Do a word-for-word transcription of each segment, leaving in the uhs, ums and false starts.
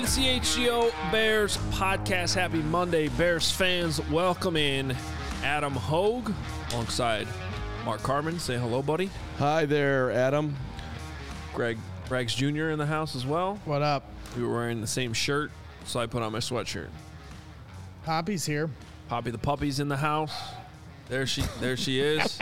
to the C H G O Bears podcast. Happy Monday, Bears fans. Welcome in Adam Hogue alongside Mark Carman. Say hello, buddy. Hi there, Adam. Greg Braggs Junior in the house as well. What up? We were wearing the same shirt, so I put on my sweatshirt. Poppy's here. Poppy the puppy's in the house. There she, there she is.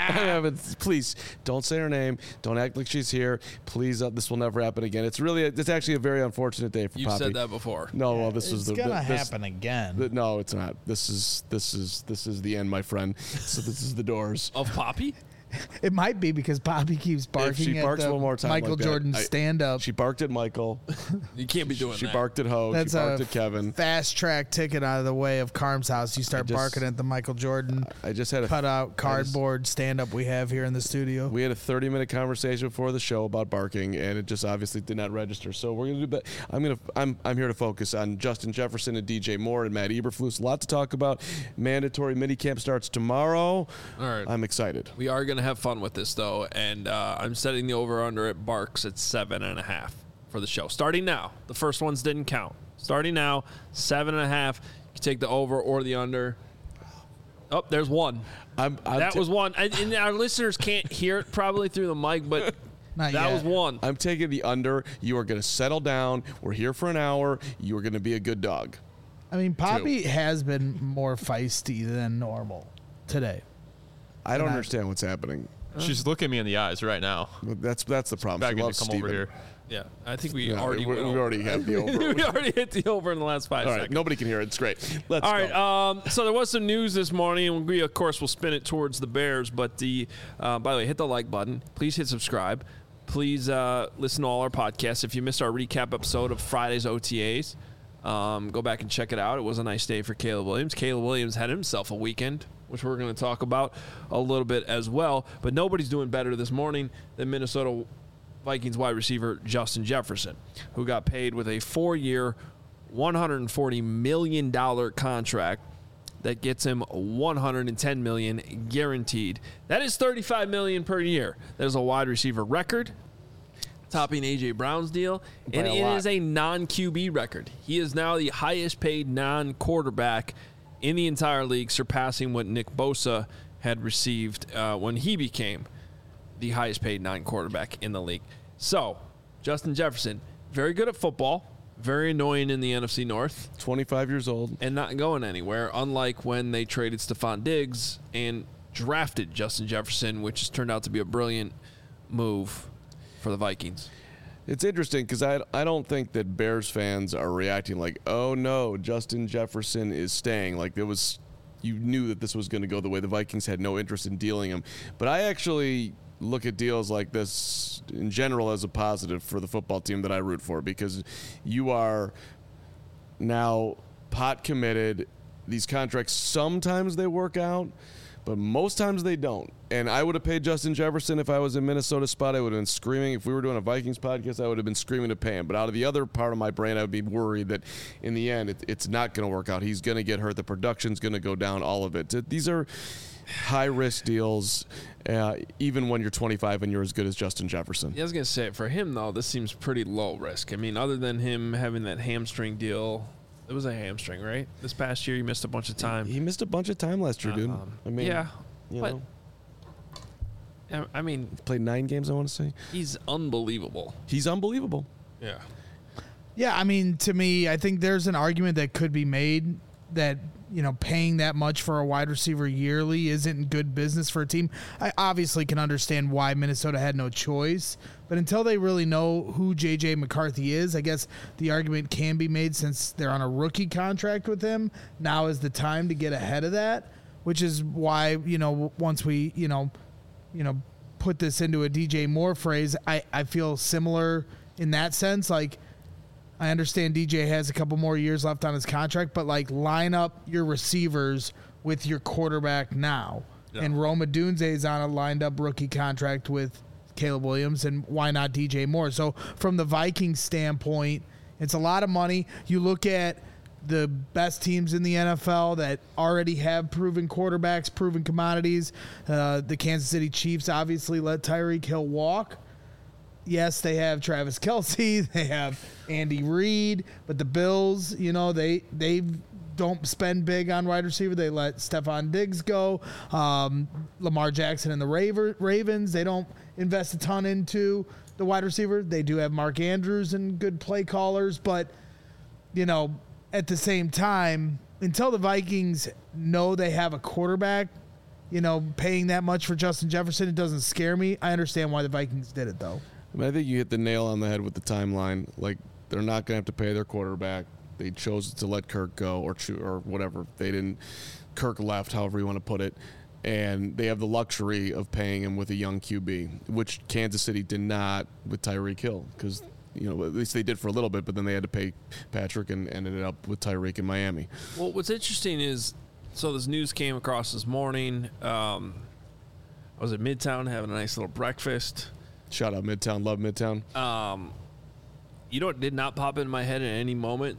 Please don't say her name. Don't act like she's here. Please, uh, this will never happen again. It's really, it's actually a very unfortunate day for You've Poppy. said that before. No, well, this it's is the. It's gonna this, happen again. The, no, it's not. This is this is this is the end, my friend. So this is the doors Of Poppy? It might be because Poppy keeps barking If she at barks the one more time Michael like that, Jordan I- stand-up. She barked at Michael. You can't be doing She that. barked at Hogue. That's She barked a at Kevin. fast track ticket out of the way of Carm's house. You start just- barking at the Michael Jordan I just had a cut-out cardboard stand-up we have here in the studio. We had a thirty minute conversation before the show about barking, and it just obviously did not register. So we're gonna do that. I'm gonna I'm I'm here to focus on Justin Jefferson and D J Moore and Matt Eberflus. A lot to talk about. Mandatory minicamp starts tomorrow. All right. I'm excited. We are going to have fun with this, though, and uh, I'm setting the over-under at Barks at seven and a half for the show. Starting now. The first ones didn't count. Starting now, seven and a half. You take the over or the under. Oh, there's one. I'm, I'm that ta- was one. And, and our listeners can't hear it probably through the mic, but Not that yet. was one. I'm taking the under. You are going to settle down. We're here for an hour. You are going to be a good dog. I mean, Poppy has been more feisty than normal today. I don't I- understand what's happening. She's looking me in the eyes right now. That's that's the problem. Begging She to loves come Steven. over here. Yeah, I think we Yeah, already we, went we over. already have the over. we already hit the over in the last five All right, seconds. nobody can hear it. It's great. Let's All go. right. Um, so there was some news this morning, and we, of course, will spin it towards the Bears. But the, uh, by the way, hit the like button. Please hit subscribe. Please uh, listen to all our podcasts. If you missed our recap episode of Friday's O T As, um, go back and check it out. It was a nice day for Caleb Williams. Caleb Williams had himself a weekend, which we're going to talk about a little bit as well. But nobody's doing better this morning than Minnesota Vikings wide receiver Justin Jefferson, who got paid with a four-year, one hundred forty million dollars contract that gets him one hundred ten million dollars guaranteed. That is thirty-five million dollars per year. That is a wide receiver record, topping A J. Brown's deal, By and a it lot. is a non-Q B record. He is now the highest-paid non-quarterback in the entire league, surpassing what Nick Bosa had received uh, when he became the highest-paid non-quarterback in the league. So, Justin Jefferson, very good at football, very annoying in the N F C North, twenty-five years old. and not going anywhere, unlike when they traded Stephon Diggs and drafted Justin Jefferson, which has turned out to be a brilliant move for the Vikings. It's interesting because I, I don't think that Bears fans are reacting like, oh no, Justin Jefferson is staying. Like there was, you knew that this was going to go the way the Vikings had no interest in dealing him. But I actually look at deals like this in general as a positive for the football team that I root for, because you are now pot committed. These contracts, sometimes they work out, but most times they don't. And I would have paid Justin Jefferson if I was in Minnesota spot. I would have been screaming. If we were doing a Vikings podcast, I would have been screaming to pay him. But out of the other part of my brain, I would be worried that in the end, it, it's not going to work out. He's going to get hurt. The production's going to go down, all of it. These are high-risk deals, uh, even when you're twenty-five and you're as good as Justin Jefferson. Yeah, I was going to say, for him, though, this seems pretty low risk. I mean, other than him having that hamstring deal, it was a hamstring, right? This past year, he missed a bunch of time. He missed a bunch of time last year, dude. Um, I mean, yeah, you but- know, I mean, played nine games, I want to say. he's unbelievable. He's unbelievable. Yeah. Yeah, I mean, to me, I think there's an argument that could be made that, you know, paying that much for a wide receiver yearly isn't good business for a team. I obviously can understand why Minnesota had no choice, but until they really know who J J. McCarthy is, I guess the argument can be made, since they're on a rookie contract with him. Now is the time to get ahead of that, which is why, you know, once we, you know, you know, put this into a D J Moore phrase, I, I feel similar in that sense. Like, I understand D J has a couple more years left on his contract, but like line up your receivers with your quarterback now. Yeah. And Roma Dunze is on a lined up rookie contract with Caleb Williams, and why not D J Moore? So from the Vikings standpoint, it's a lot of money. You look at the best teams in the N F L that already have proven quarterbacks, proven commodities. Uh, the Kansas City Chiefs obviously let Tyreek Hill walk. yes, they have Travis Kelce, they have Andy Reid, but the Bills, you know, they they don't spend big on wide receiver. They let Stephon Diggs go. Um, Lamar Jackson and the Raver, Ravens, they don't invest a ton into the wide receiver. They do have Mark Andrews and good play callers, but, you know, at the same time, until the Vikings know they have a quarterback, you know, paying that much for Justin Jefferson, it doesn't scare me. I understand why the Vikings did it, though. I mean, I think you hit the nail on the head with the timeline. Like, they're not going to have to pay their quarterback. They chose to let Kirk go or cho- or whatever. They didn't. Kirk left, however you want to put it. And they have the luxury of paying him with a young Q B, which Kansas City did not with Tyreek Hill, because, you know, at least they did for a little bit, but then they had to pay Patrick and ended up with Tyreek in Miami. Well, what's interesting is, so this news came across this morning. Um, I was at Midtown having a nice little breakfast. Shout out Midtown. Love Midtown. Um, you know what did not pop in my head at any moment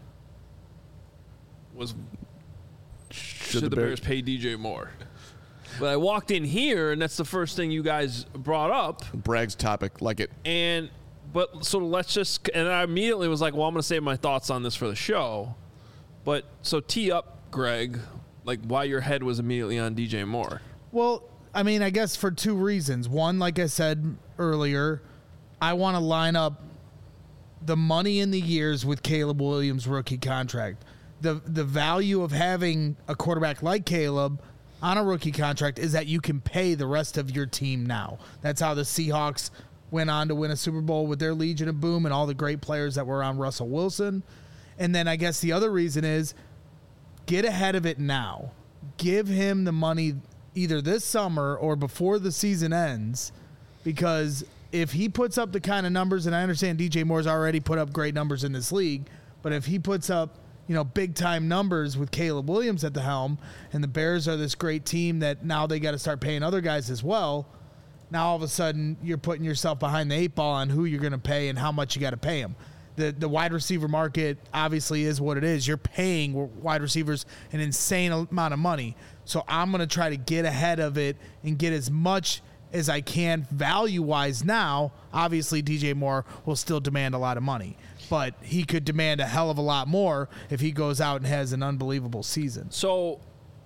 was, should, should the, the Bears, Bears pay D J Moore? But I walked in here, and that's the first thing you guys brought up. Bragg's topic, like it. And, but, so let's just, and I immediately was like, well, I'm going to save my thoughts on this for the show. But, so tee up, Greg, like why your head was immediately on D J Moore. Well, I mean, I guess for two reasons. One, like I said earlier, I want to line up the money in the years with Caleb Williams' rookie contract. The the value of having a quarterback like Caleb on a rookie contract is that you can pay the rest of your team now. That's how the Seahawks went on to win a Super Bowl with their Legion of Boom and all the great players that were around Russell Wilson. And then I guess the other reason is get ahead of it now. Give him the money either this summer or before the season ends, because if he puts up the kind of numbers, and I understand D J Moore's already put up great numbers in this league, but if he puts up, you know, big time numbers with Caleb Williams at the helm, and the Bears are this great team that now they got to start paying other guys as well. Now all of a sudden you're putting yourself behind the eight ball on who you're going to pay and how much you got to pay them. The the wide receiver market obviously is what it is. You're paying wide receivers an insane amount of money. So I'm going to try to get ahead of it and get as much as I can value-wise now. Obviously, D J Moore will still demand a lot of money, but he could demand a hell of a lot more if he goes out and has an unbelievable season. So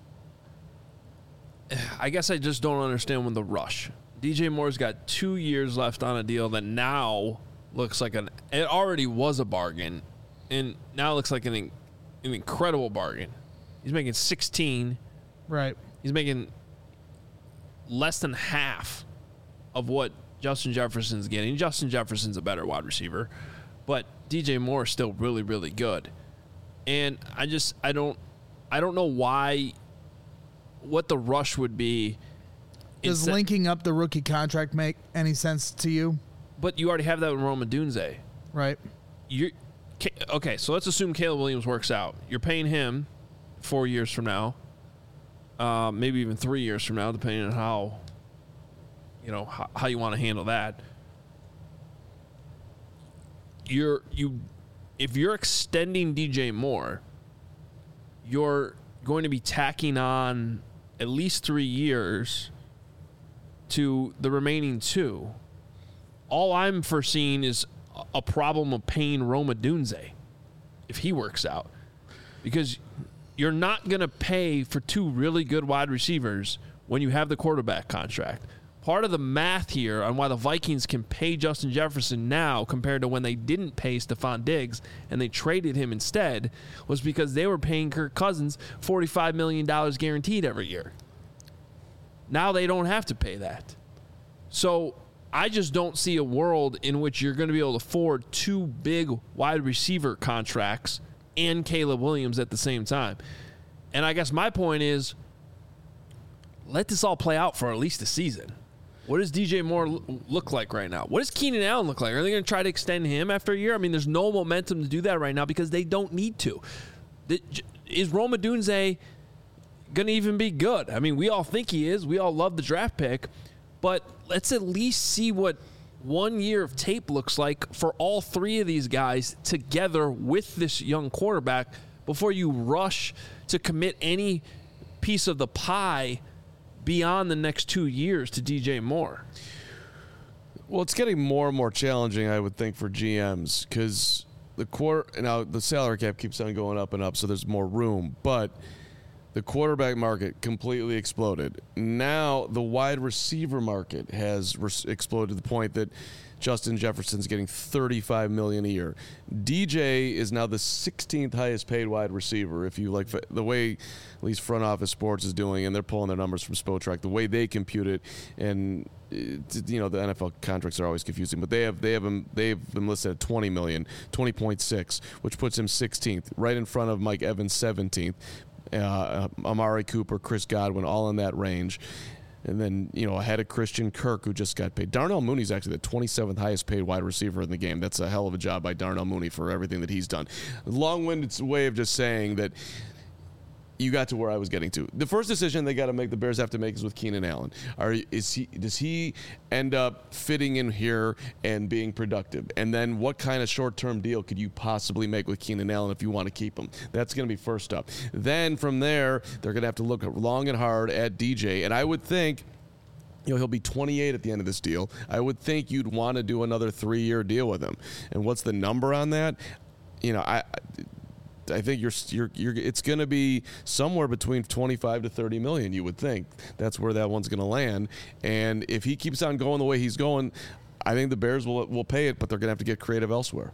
I guess I just don't understand when the rush. D J Moore's got two years left on a deal that now looks like an – it already was a bargain, and now it looks like an, an incredible bargain. He's making sixteen. Right. He's making less than half of what Justin Jefferson's getting. Justin Jefferson's a better wide receiver, but D J Moore is still really, really good. And I just I don't I don't know why what the rush would be. Does Instead, linking up the rookie contract make any sense to you? But you already have that with Rome Odunze. Right. You're okay, so let's assume Caleb Williams works out. You're paying him four years from now. Uh, maybe even three years from now, depending on how, you know, how, how you want to handle that. You're you, if you're extending D J Moore, you're going to be tacking on at least three years to the remaining two. All I'm foreseeing is a problem of paying Rome Odunze if he works out, because you're not going to pay for two really good wide receivers when you have the quarterback contract. Part of the math here on why the Vikings can pay Justin Jefferson now compared to when they didn't pay Stephon Diggs and they traded him instead was because they were paying Kirk Cousins forty-five million dollars guaranteed every year. Now they don't have to pay that. So I just don't see a world in which you're going to be able to afford two big wide receiver contracts and Caleb Williams at the same time. And I guess my point is, let this all play out for at least a season. What does D J Moore look like right now? What does Keenan Allen look like? Are they going to try to extend him after a year? I mean, there's no momentum to do that right now because they don't need to. Is Rome Odunze going to even be good? I mean, we all think he is. We all love the draft pick. But let's at least see what one year of tape looks like for all three of these guys together with this young quarterback before you rush to commit any piece of the pie beyond the next two years to D J Moore. Well, it's getting more and more challenging, I would think, for G Ms because the quarter now the salary cap keeps on going up and up, so there's more room. But the quarterback market completely exploded. Now the wide receiver market has res- exploded to the point that Justin Jefferson's getting thirty-five million dollars a year. D J is now the sixteenth highest paid wide receiver. If you like the way at least Front Office Sports is doing, and they're pulling their numbers from Spotrac, the way they compute it, and it, you know the N F L contracts are always confusing, but they have they have him they've been listed at twenty million, twenty point six, which puts him sixteenth, right in front of Mike Evans seventeenth, uh, Amari Cooper, Chris Godwin, all in that range. And then, you know, ahead of Christian Kirk, who just got paid. Darnell Mooney's actually the twenty-seventh highest paid wide receiver in the game. That's a hell of a job by Darnell Mooney for everything that he's done. Long-winded way of just saying that you got to where I was getting to. The first decision they got to make, the Bears have to make, is with Keenan Allen. Are is he? Does he end up fitting in here and being productive? And then what kind of short-term deal could you possibly make with Keenan Allen if you want to keep him? That's going to be first up. Then from there, they're going to have to look long and hard at D J. And I would think, you know, he'll be twenty-eight at the end of this deal. I would think you'd want to do another three-year deal with him. And what's the number on that? You know, I. I think you're you're you're. It's going to be somewhere between twenty-five to thirty million. You would think that's where that one's going to land. And if he keeps on going the way he's going, I think the Bears will will pay it, but they're going to have to get creative elsewhere.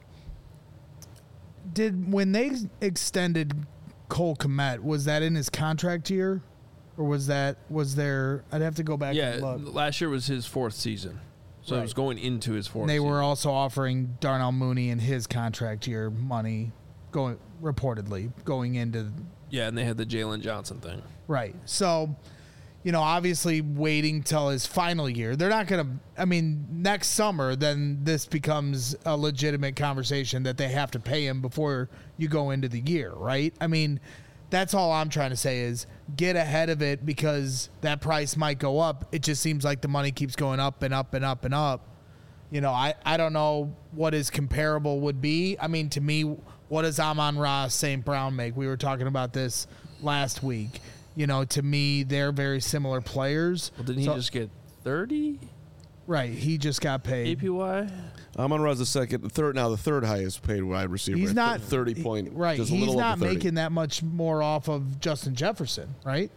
Did when they extended Cole Kmet, was that in his contract year, or was that was there? I'd have to go back. Yeah, and look. last year was his fourth season, so Right. it was going into his fourth. And they season. were also offering Darnell Mooney in his contract year money, going reportedly going into Yeah, and they had the Jalen Johnson thing. right. So, you know, obviously waiting till his final year. They're not going to. I mean, next summer, then this becomes a legitimate conversation that they have to pay him before you go into the year, right? I mean, that's all I'm trying to say is get ahead of it because that price might go up. It just seems like the money keeps going up and up and up and up. You know, I, I don't know what his comparable would be. I mean, to me, what does Amon-Ra Saint Brown make? We were talking about this last week. You know, to me, they're very similar players. Well, didn't he So- just get thirty Right, he just got paid. A P Y? Amon-Ra's the second, the third now, the third highest paid wide receiver. He's at not thirty point. he- right. Just a He's little not over thirty. making that much more off of Justin Jefferson, right?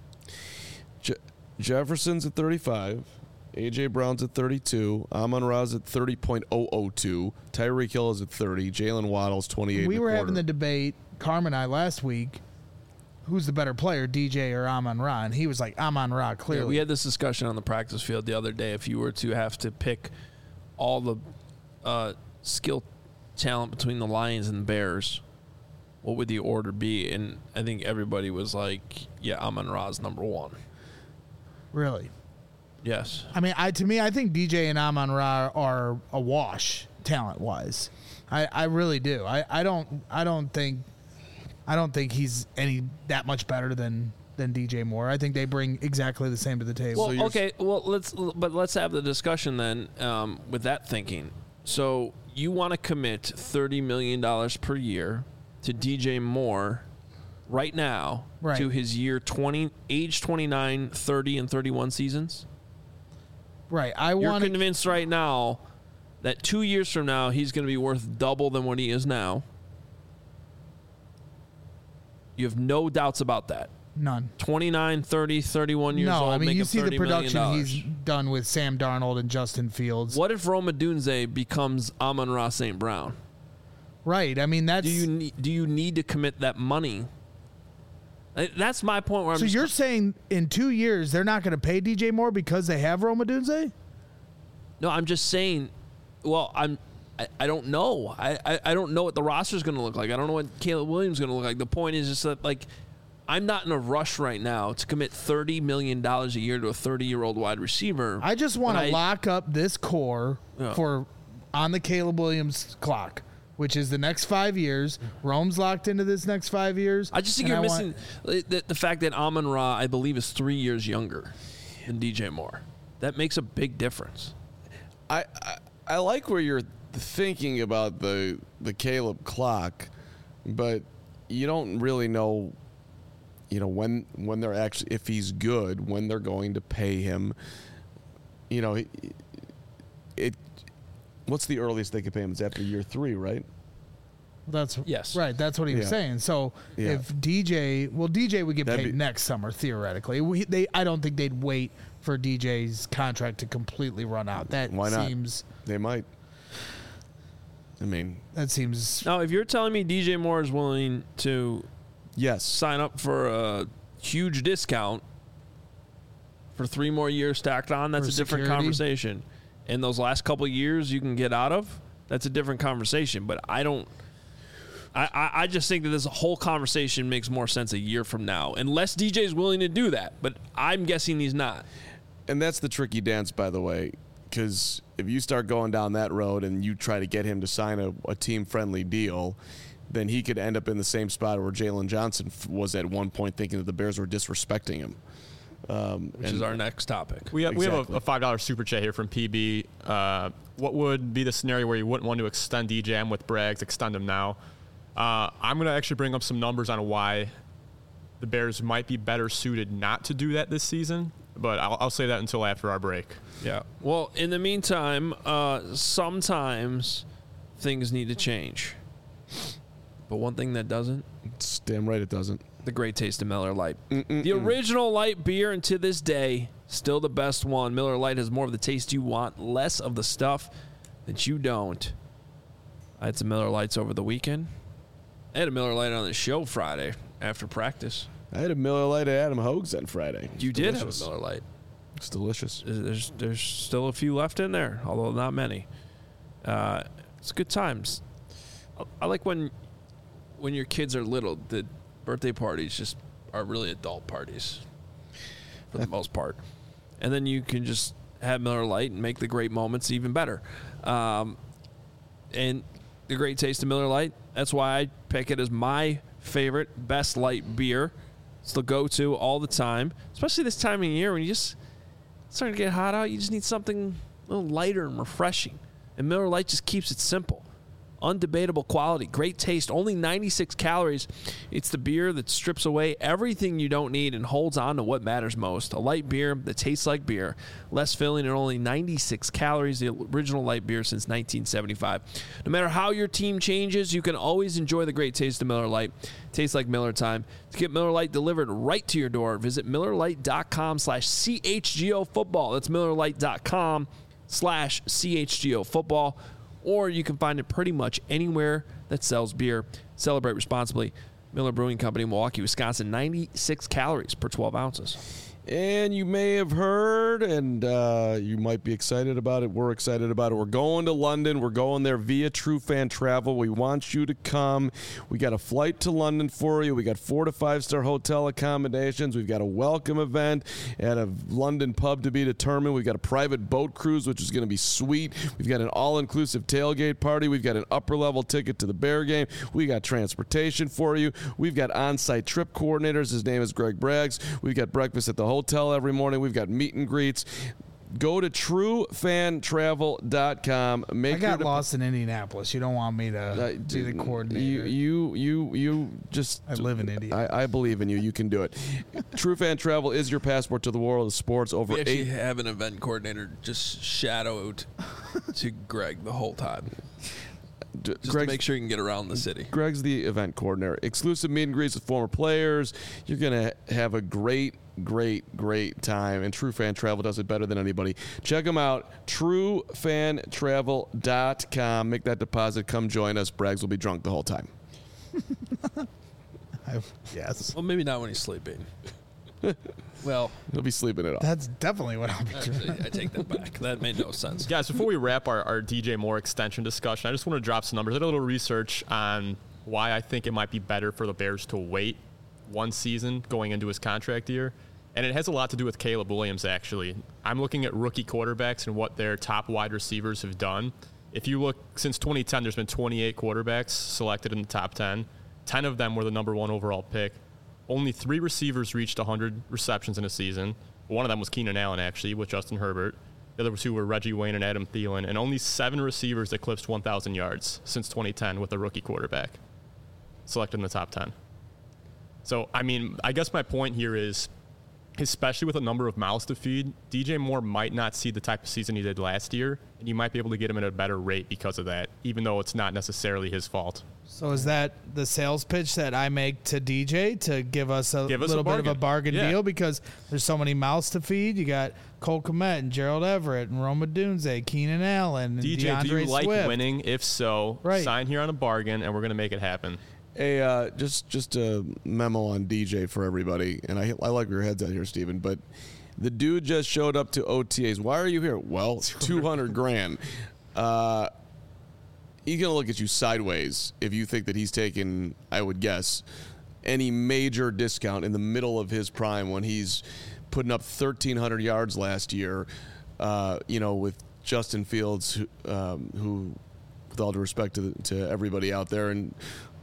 Je- Jefferson's at thirty-five. A J Brown's at thirty-two. Amon-Ra's at thirty point oh oh two. Tyreek Hill is at thirty. Jalen Waddle's twenty-eight. We and a were quarter. having the debate, Carm and I, last week. Who's the better player, D J or Amon-Ra? And he was like, Amon-Ra, clearly. Yeah, we had this discussion on the practice field the other day. If you were to have to pick all the uh, skill talent between the Lions and the Bears, what would the order be? And I think everybody was like, yeah, Amon-Ra's number one. Really? Yes. I mean, I to me, I think D J and Amon-Ra are a wash talent-wise. I, I really do. I, I don't I don't think I don't think he's any that much better than than D J Moore. I think they bring exactly the same to the table. Well, okay. Well, let's but let's have the discussion then um, with that thinking. So you want to commit thirty million dollars per year to D J Moore right now Right. to his year twenty, age twenty-nine, thirty, and thirty-one seasons? Right. I You're want to convinced right now that two years from now he's going to be worth double than what he is now. You have no doubts about that. none. twenty-nine, thirty, thirty-one years No, old. I mean making you see the thirty million production dollars. he's done with Sam Darnold and Justin Fields. What if Rome Odunze becomes Amon-Ra Saint Brown? Right. I mean that's Do you need, do you need to commit that money? Uh, That's my point. Where I'm so just, you're saying in two years they're not going to pay D J Moore because they have Rome Odunze? no, I'm just saying. Well, I'm. I, I don't know. I, I, I don't know what the roster is going to look like. I don't know what Caleb Williams is going to look like. The point is just that like, I'm not in a rush right now to commit thirty million dollars a year to a thirty-year-old wide receiver. I just want When to I- lock up this core Yeah. for on the Caleb Williams clock, which is the next five years. Rome's locked into this next five years. I just think and you're I want- missing the, the fact that Amon-Ra, I believe, is three years younger than D J Moore. That makes a big difference. I, I I like where you're thinking about the the Caleb clock, but you don't really know, you know, when when they're actually, if he's good, when they're going to pay him. You know, he, it. What's the earliest they could pay him? It's after year three, right? That's Yes. right. That's what he was Yeah. saying. So Yeah. if D J, well, D J would get That'd paid be- next summer theoretically. We, they, I don't think they'd wait for D J's contract to completely run out. That Why not? seems They might. I mean, that seems Now, if you're telling me D J Moore is willing to yes. sign up for a huge discount for three more years stacked on, that's For a different security? conversation. In those last couple of years you can get out of, that's a different conversation. But I don't I, I, I just think that this whole conversation makes more sense a year from now, unless D J is willing to do that. But I'm guessing he's not. And that's the tricky dance, by the way, because if you start going down that road and you try to get him to sign a, a team-friendly deal, then he could end up in the same spot where Jalen Johnson f- was at one point, thinking that the Bears were disrespecting him. Um, Which and- is our next topic. We have, we have Exactly. a, a five dollar super chat here from P B. Uh, what would be the scenario where you wouldn't want to extend D J? I'm with Braggs. Extend him now. Uh, I'm going to actually bring up some numbers on why the Bears might be better suited not to do that this season, but I'll, I'll say that until after our break. Yeah. Well, in the meantime, uh, sometimes things need to change. But one thing that doesn't, It's damn right it doesn't. the great taste of Miller Lite. Mm-mm-mm. The original light beer, and to this day, still the best one. Miller Lite has more of the taste you want, less of the stuff that you don't. I had some Miller Lights over the weekend. I had a Miller Lite on the show Friday after practice. I had a Miller Lite at Adam Hogue's on Friday. You It's did delicious. have a Miller Lite. It's delicious. There's there's still a few left in there, although not many. Uh, it's good times. I, I like when when your kids are little. The birthday parties just are really adult parties for the most part, and then you can just have Miller Lite and make the great moments even better. Um, and the great taste of Miller Lite. That's why I pick it as my favorite, best light beer. It's the go-to all the time, especially this time of year when you just it's starting to get hot out. You just need something a little lighter and refreshing. And Miller Lite just keeps it simple. Undebatable quality, great taste, only ninety-six calories. It's the beer that strips away everything you don't need and holds on to what matters most. A light beer that tastes like beer, less filling and only ninety-six calories, the original light beer since nineteen seventy-five. No matter how your team changes, you can always enjoy the great taste of Miller Lite. Tastes like Miller time. To get Miller Lite delivered right to your door, visit MillerLite.com slash CHGO football. That's MillerLite.com slash CHGO football. Or you can find it pretty much anywhere that sells beer. Celebrate responsibly. Miller Brewing Company, Milwaukee, Wisconsin, ninety-six calories per twelve ounces. And you may have heard, and uh, you might be excited about it. We're excited about it. We're going to London. We're going there via True Fan Travel. We want you to come. We got a flight to London for you. We got four to five star hotel accommodations. We've got a welcome event at a London pub to be determined. We've got a private boat cruise, which is going to be sweet. We've got an all-inclusive tailgate party. We've got an upper-level ticket to the Bear game. We got transportation for you. We've got on-site trip coordinators. His name is Greg Braggs. We've got breakfast at the hotel every morning. We've got meet and greets. Go to true fan travel dot com. Make I got your lost in Indianapolis. You don't want me to Uh, be the coordinator. You, you, you, you just. I live in India. I, I believe in you. You can do it. True Fan Travel is your passport to the world of sports. Over We actually eight. have an event coordinator just shadowed to Greg the whole time, D- just to Greg's, make sure you can get around the city. Greg's the event coordinator. Exclusive meet and greets with former players. You're gonna have a great, great, great time. And True Fan Travel does it better than anybody. Check them out. true fan travel dot com. Make that deposit. Come join us. Braggs will be drunk the whole time. I, yes. Well, maybe not when he's sleeping. Well, He'll be sleeping it off. That's definitely what I'll be doing. actually, I take that back. That made no sense. Guys, before we wrap our, our D J Moore extension discussion, I just want to drop some numbers. I did a little research on why I think it might be better for the Bears to wait one season going into his contract year. And it has a lot to do with Caleb Williams, actually. I'm looking at rookie quarterbacks and what their top wide receivers have done. If you look, since twenty ten, there's been twenty-eight quarterbacks selected in the top ten. ten of them were the number one overall pick. Only three receivers reached one hundred receptions in a season. One of them was Keenan Allen, actually, with Justin Herbert. The other two were Reggie Wayne and Adam Thielen. And only seven receivers eclipsed one thousand yards since twenty ten with a rookie quarterback selected in the top ten. So, I mean, I guess my point here is especially with a number of mouths to feed, D J Moore might not see the type of season he did last year, and you might be able to get him at a better rate because of that, even though it's not necessarily his fault. So is that the sales pitch that I make to D J to give us a Give us little a bit of a bargain Yeah. deal because there's so many mouths to feed? You got Cole Kmet and Gerald Everett and Roma Dunze, Keenan Allen, and D J, DeAndre do you like Swift. winning? If so, Right. sign here on a bargain, and we're going to make it happen. A uh, just just a memo on D J for everybody, and I I like where your head's at here, Steven, but the dude just showed up to O T As. Why are you here? Well, two hundred grand. Uh, he's gonna look at you sideways if you think that he's taking, I would guess, any major discount in the middle of his prime when he's putting up thirteen hundred yards last year. Uh, you know, with Justin Fields, who, um, who, with all due respect to to everybody out there, and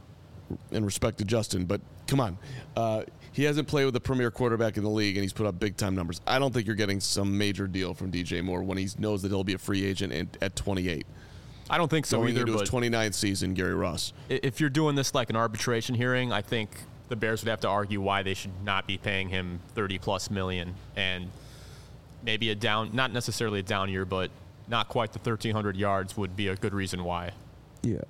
in respect to Justin, but come on. Uh, he hasn't played with a premier quarterback in the league, and he's put up big-time numbers. I don't think you're getting some major deal from D J Moore when he knows that he'll be a free agent at, at twenty-eight. I don't think so Going either, into but his twenty-ninth season, Gary Ross. i- if you're doing this like an arbitration hearing, I think the Bears would have to argue why they should not be paying him thirty-plus million, and maybe a down, not necessarily a down year, but not quite the thirteen hundred yards would be a good reason why. Yeah.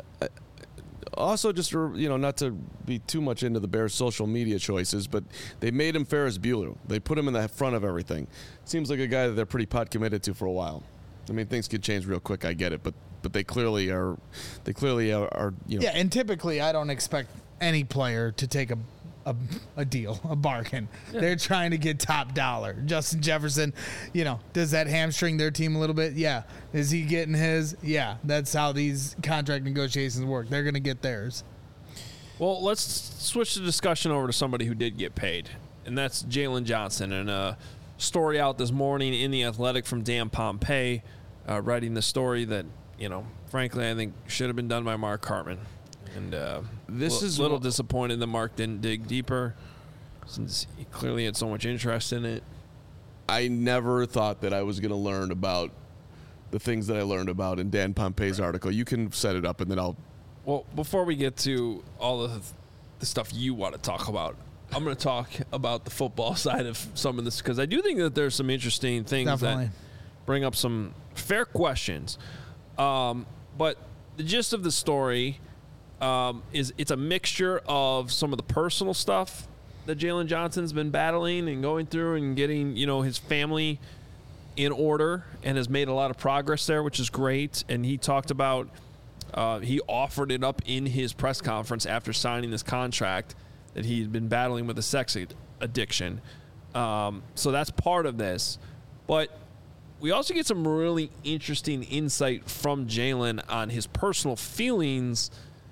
Also, just to, you know, not to be too much into the Bears' social media choices, but they made him Ferris Bueller. They put him in the front of everything. Seems like a guy that they're pretty pot committed to for a while. I mean, things could change real quick. I get it, but but they clearly are. They clearly are. are you know. Yeah, and typically I don't expect any player to take a a, a deal, a bargain. They're trying to get top dollar. Justin Jefferson, you know, does that hamstring their team a little bit? Yeah. Is he getting his? Yeah. That's how these contract negotiations work. They're going to get theirs. Well, let's switch the discussion over to somebody who did get paid, and that's Jalen Johnson. And a story out this morning in The Athletic from Dan Pompei, uh, writing the story that, you know, frankly, I think should have been done by Mark Hartman. And uh, This a is little wh- disappointed that Mark didn't dig deeper, since he clearly had so much interest in it. I never thought that I was going to learn about the things that I learned about in Dan Pompei's article. You can set it up, and then I'll. Well, before we get to all of the stuff you want to talk about, I'm going to talk about the football side of some of this, because I do think that there's some interesting things Definitely. that bring up some fair questions. Um, but the gist of the story um, is it's a mixture of some of the personal stuff that Jalen Johnson's been battling and going through and getting, you know, his family in order, and has made a lot of progress there, which is great. And he talked about uh, he offered it up in his press conference after signing this contract that he'd been battling with a sex ad- addiction. Um, so that's part of this. But we also get some really interesting insight from Jalen on his personal feelings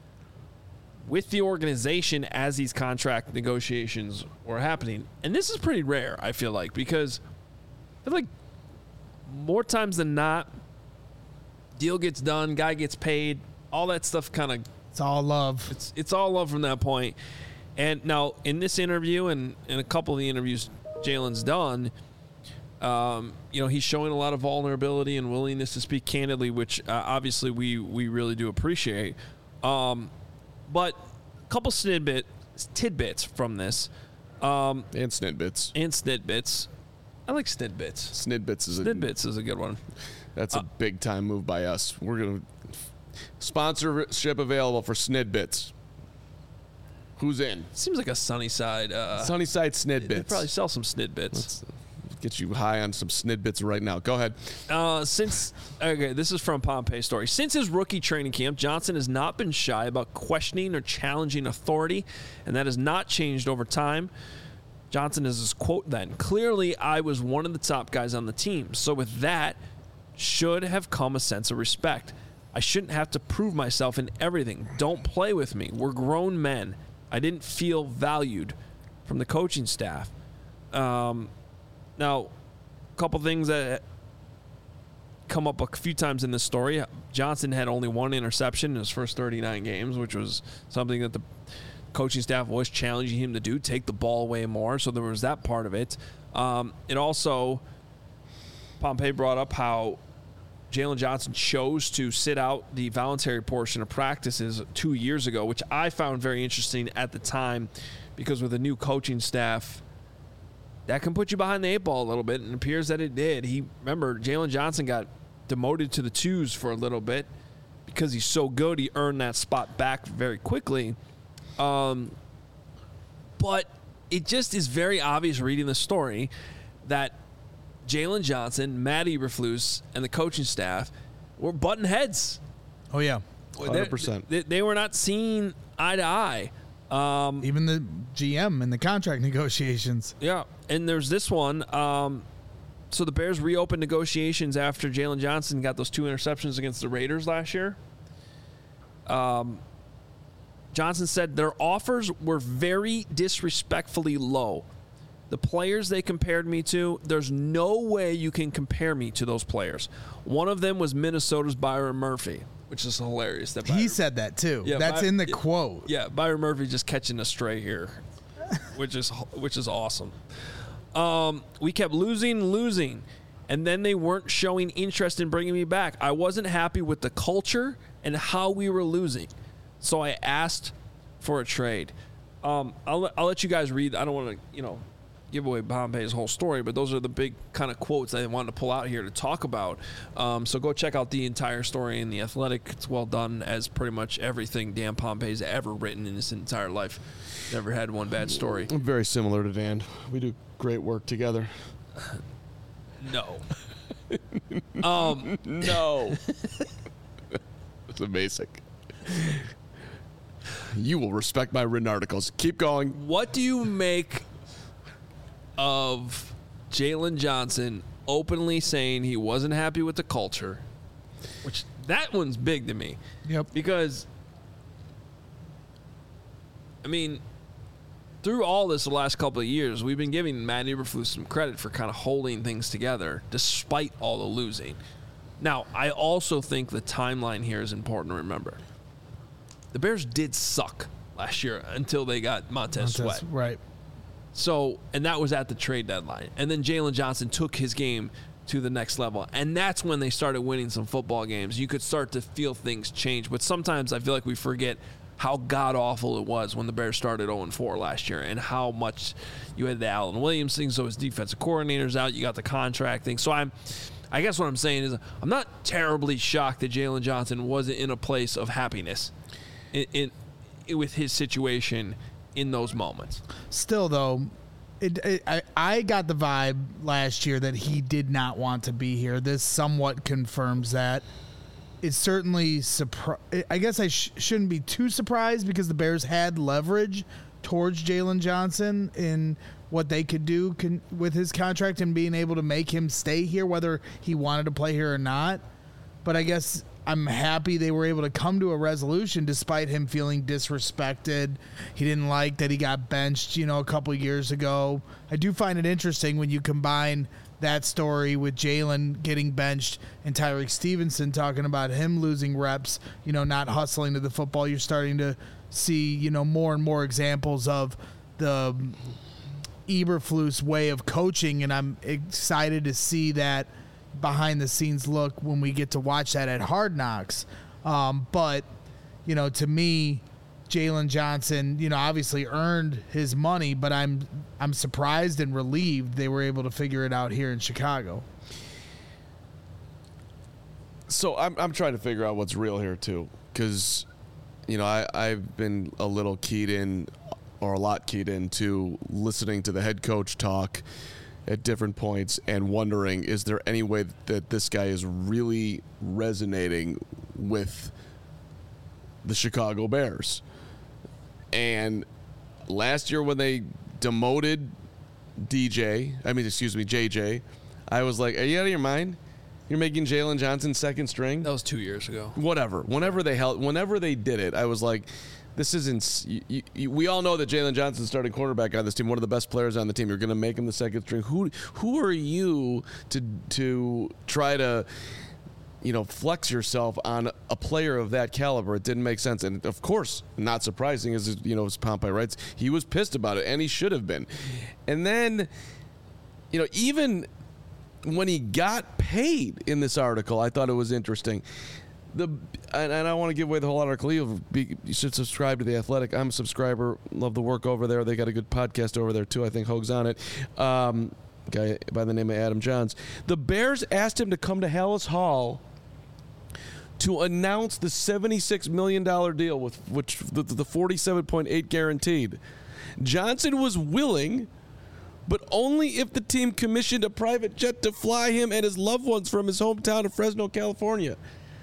with the organization as these contract negotiations were happening. And this is pretty rare, I feel like, because I feel like more times than not, deal gets done, guy gets paid, all that stuff kind of, It's all love. it's it's all love from that point. And now in this interview and in a couple of the interviews Jalen's done, um, you know, he's showing a lot of vulnerability and willingness to speak candidly, which uh, obviously we we really do appreciate. Um, but a couple snidbit tidbits from this, um, And snidbits. and snidbits. I like snidbits. Snidbits is a Snidbits is a good one. That's a big time move by us. We're gonna sponsorship available for Snidbits. Who's in? Seems like a sunny side. Uh, Sunnyside they Snidbits. probably sell some snidbits. Let's get you high on some Snidbits right now. Go ahead. Uh, since okay, this is from Pompei story. Since his rookie training camp, Johnson has not been shy about questioning or challenging authority, and that has not changed over time. Johnson has his quote then. Clearly, I was one of the top guys on the team, so with that, should have come a sense of respect. I shouldn't have to prove myself in everything. Don't play with me. We're grown men. I didn't feel valued from the coaching staff. Um, now, a couple things that come up a few times in this story. Johnson had only one interception in his first thirty-nine games, which was something that the coaching staff was challenging him to do, take the ball away more. So there was that part of it. Um, it also, Pompei brought up how Jalen Johnson chose to sit out the voluntary portion of practices two years ago, which I found very interesting at the time, because with a new coaching staff, that can put you behind the eight ball a little bit, and it appears that it did. He remember Jalen Johnson got demoted to the twos for a little bit because he's so good. He earned that spot back very quickly. Um, but it just is very obvious reading the story that Jalen Johnson, Matt Eberflus, and the coaching staff were button heads. Oh, yeah. one hundred percent. They, they were not seeing eye to eye. Um, Even the G M in the contract negotiations. yeah, and there's this one. Um, so the Bears reopened negotiations after Jalen Johnson got those two interceptions against the Raiders last year. Um, Johnson said their offers were very disrespectfully low. The players they compared me to, there's no way you can compare me to those players. One of them was Minnesota's Byron Murphy, which is hilarious. That Byron, He said that, too. Yeah, That's By- in the yeah, quote. Yeah, Byron Murphy just catching a stray here, which is which is awesome. Um, we kept losing, losing, and then they weren't showing interest in bringing me back. I wasn't happy with the culture and how we were losing, so I asked for a trade. Um, I'll I'll let you guys read. I don't want to, you know, give away Pompey's whole story, but those are the big kind of quotes I wanted to pull out here to talk about. Um, so go check out the entire story in The Athletic. It's well done, as pretty much everything Dan Pompey's ever written in his entire life. Never had one bad story. I'm very similar to Dan. We do great work together. No. um, No. It's amazing. You will respect my written articles. Keep going. what do you make of Jalen Johnson openly saying he wasn't happy with the culture? Which, that one's big to me. Yep. Because, I mean, through all this the last couple of years, we've been giving Matt Eberflus some credit for kind of holding things together despite all the losing. Now, I also think the timeline here is important to remember. The Bears did suck last year until they got Montez, Montez, Sweat. Right. So, and that was at the trade deadline. And then Jalen Johnson took his game to the next level. And that's when they started winning some football games. You could start to feel things change. But sometimes I feel like we forget how god-awful it was when the Bears started oh and four last year and how much you had the Allen Williams thing, so his defensive coordinator's out, you got the contract thing. So I'm, I guess what I'm saying is I'm not terribly shocked that Jalen Johnson wasn't in a place of happiness in, in, in with his situation in those moments. Still, though, it, it, I, I got the vibe last year that he did not want to be here. This somewhat confirms that. It's certainly surpri- I guess I sh- shouldn't be too surprised because the Bears had leverage towards Jalen Johnson in what they could do con- with his contract and being able to make him stay here, whether he wanted to play here or not. But I guess I'm happy they were able to come to a resolution despite him feeling disrespected. He didn't like that he got benched, you know, a couple of years ago. I do find it interesting when you combine that story with Jalen getting benched and Tyreek Stevenson talking about him losing reps, you know, not hustling to the football. You're starting to see, you know, more and more examples of the Eberflus way of coaching, and I'm excited to see that behind the scenes look when we get to watch that at Hard Knocks. Um, but, you know, to me, Jalen Johnson, you know, obviously earned his money, but I'm I'm surprised and relieved they were able to figure it out here in Chicago. So I'm I'm trying to figure out what's real here too, because you know I I've been a little keyed in, or a lot keyed into listening to the head coach talk at different points and wondering, is there any way that this guy is really resonating with the Chicago Bears? And last year when they demoted D J, I mean, excuse me, J J, I was like, are you out of your mind? You're making Jalen Johnson second string? That was two years ago. Whatever. Whenever they held, whenever they did it, I was like, this isn't. You, you, we all know that Jalen Johnson's starting quarterback on this team, one of the best players on the team. You're going to make him the second string. Who who are you to to try to, you know, flex yourself on a player of that caliber? It didn't make sense. And of course, not surprising, as you know, as Pompey writes, he was pissed about it, and he should have been. And then, you know, even when he got paid in this article, I thought it was interesting. the and, and I want to give away the whole article. You should subscribe to The Athletic. I'm a subscriber. Love the work over there. They got a good podcast over there too. I think Hoag's on it. Um, guy by the name of Adam Johns. The Bears asked him to come to Hallis Hall to announce the seventy-six million dollars deal with which the, the forty-seven point eight guaranteed. Johnson was willing, but only if the team commissioned a private jet to fly him and his loved ones from his hometown of Fresno, California.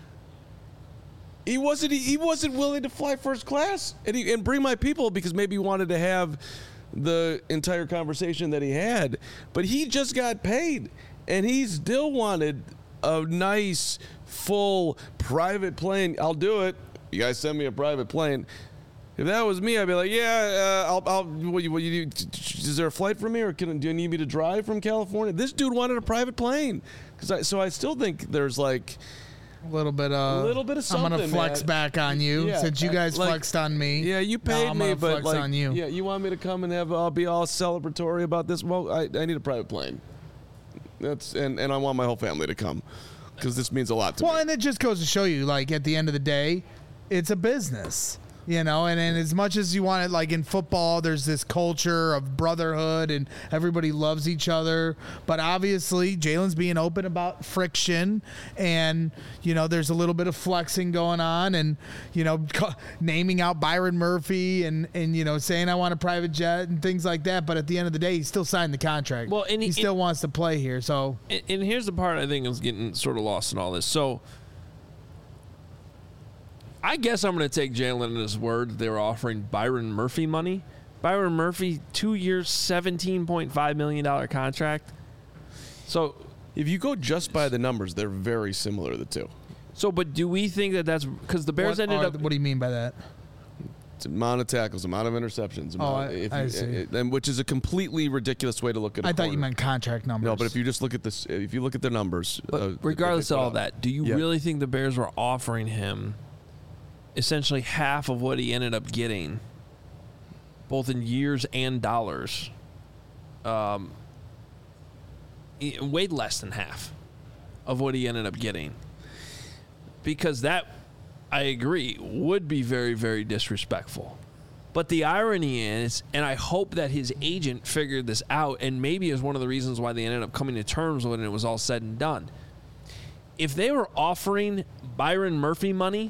He wasn't he wasn't willing to fly first class and, he, and bring my people because maybe he wanted to have the entire conversation that he had, but he just got paid and he still wanted a nice, full private plane. I'll do it. You guys send me a private plane. If that was me, I'd be like, yeah, uh, I'll, I'll, what you, what you do, is there a flight for me or can, do you need me to drive from California? This dude wanted a private plane. Cause I, so I still think there's like a little bit of, a little bit of something, I'm going to flex man. back on you Yeah, since you guys like, flexed on me. Yeah, you paid now I'm me, gonna but flex like, on you. yeah, you want me to come and have, I'll be all celebratory about this. Well, I, I need a private plane. That's, and, and I want my whole family to come because this means a lot to well, me. and it just goes to show you, like, at the end of the day, it's a business. You know, and, and as much as you want it, like in football, there's this culture of brotherhood and everybody loves each other. But obviously, Jalen's being open about friction and, you know, there's a little bit of flexing going on and, you know, ca- naming out Byron Murphy and, and, you know, saying I want a private jet and things like that. But at the end of the day, he still signed the contract. Well, and he, he still and, wants to play here. So, and, and here's the part I think is getting sort of lost in all this. So, I guess I'm going to take Jalen at his word that they were offering Byron Murphy money. Byron Murphy, two years, seventeen point five million dollars contract. So if you go just by the numbers, they're very similar, the two. So, but do we think that that's because the Bears what, ended are, up? What do you mean by that? It's amount of tackles, amount of interceptions. Oh, amount, I- if you, I see. it- and which is a completely ridiculous way to look at. A I thought you corner. meant contract numbers. No, but if you just look at this, if you look at their numbers, But uh, regardless they of put all out. that, do you Yeah. really think the Bears were offering him essentially half of what he ended up getting, both in years and dollars? Um, he- way less than half of what he ended up getting. Because that, I agree, would be very, very disrespectful. But the irony is, and I hope that his agent figured this out, and maybe is one of the reasons why they ended up coming to terms when it was all said and done. If they were offering Byron Murphy money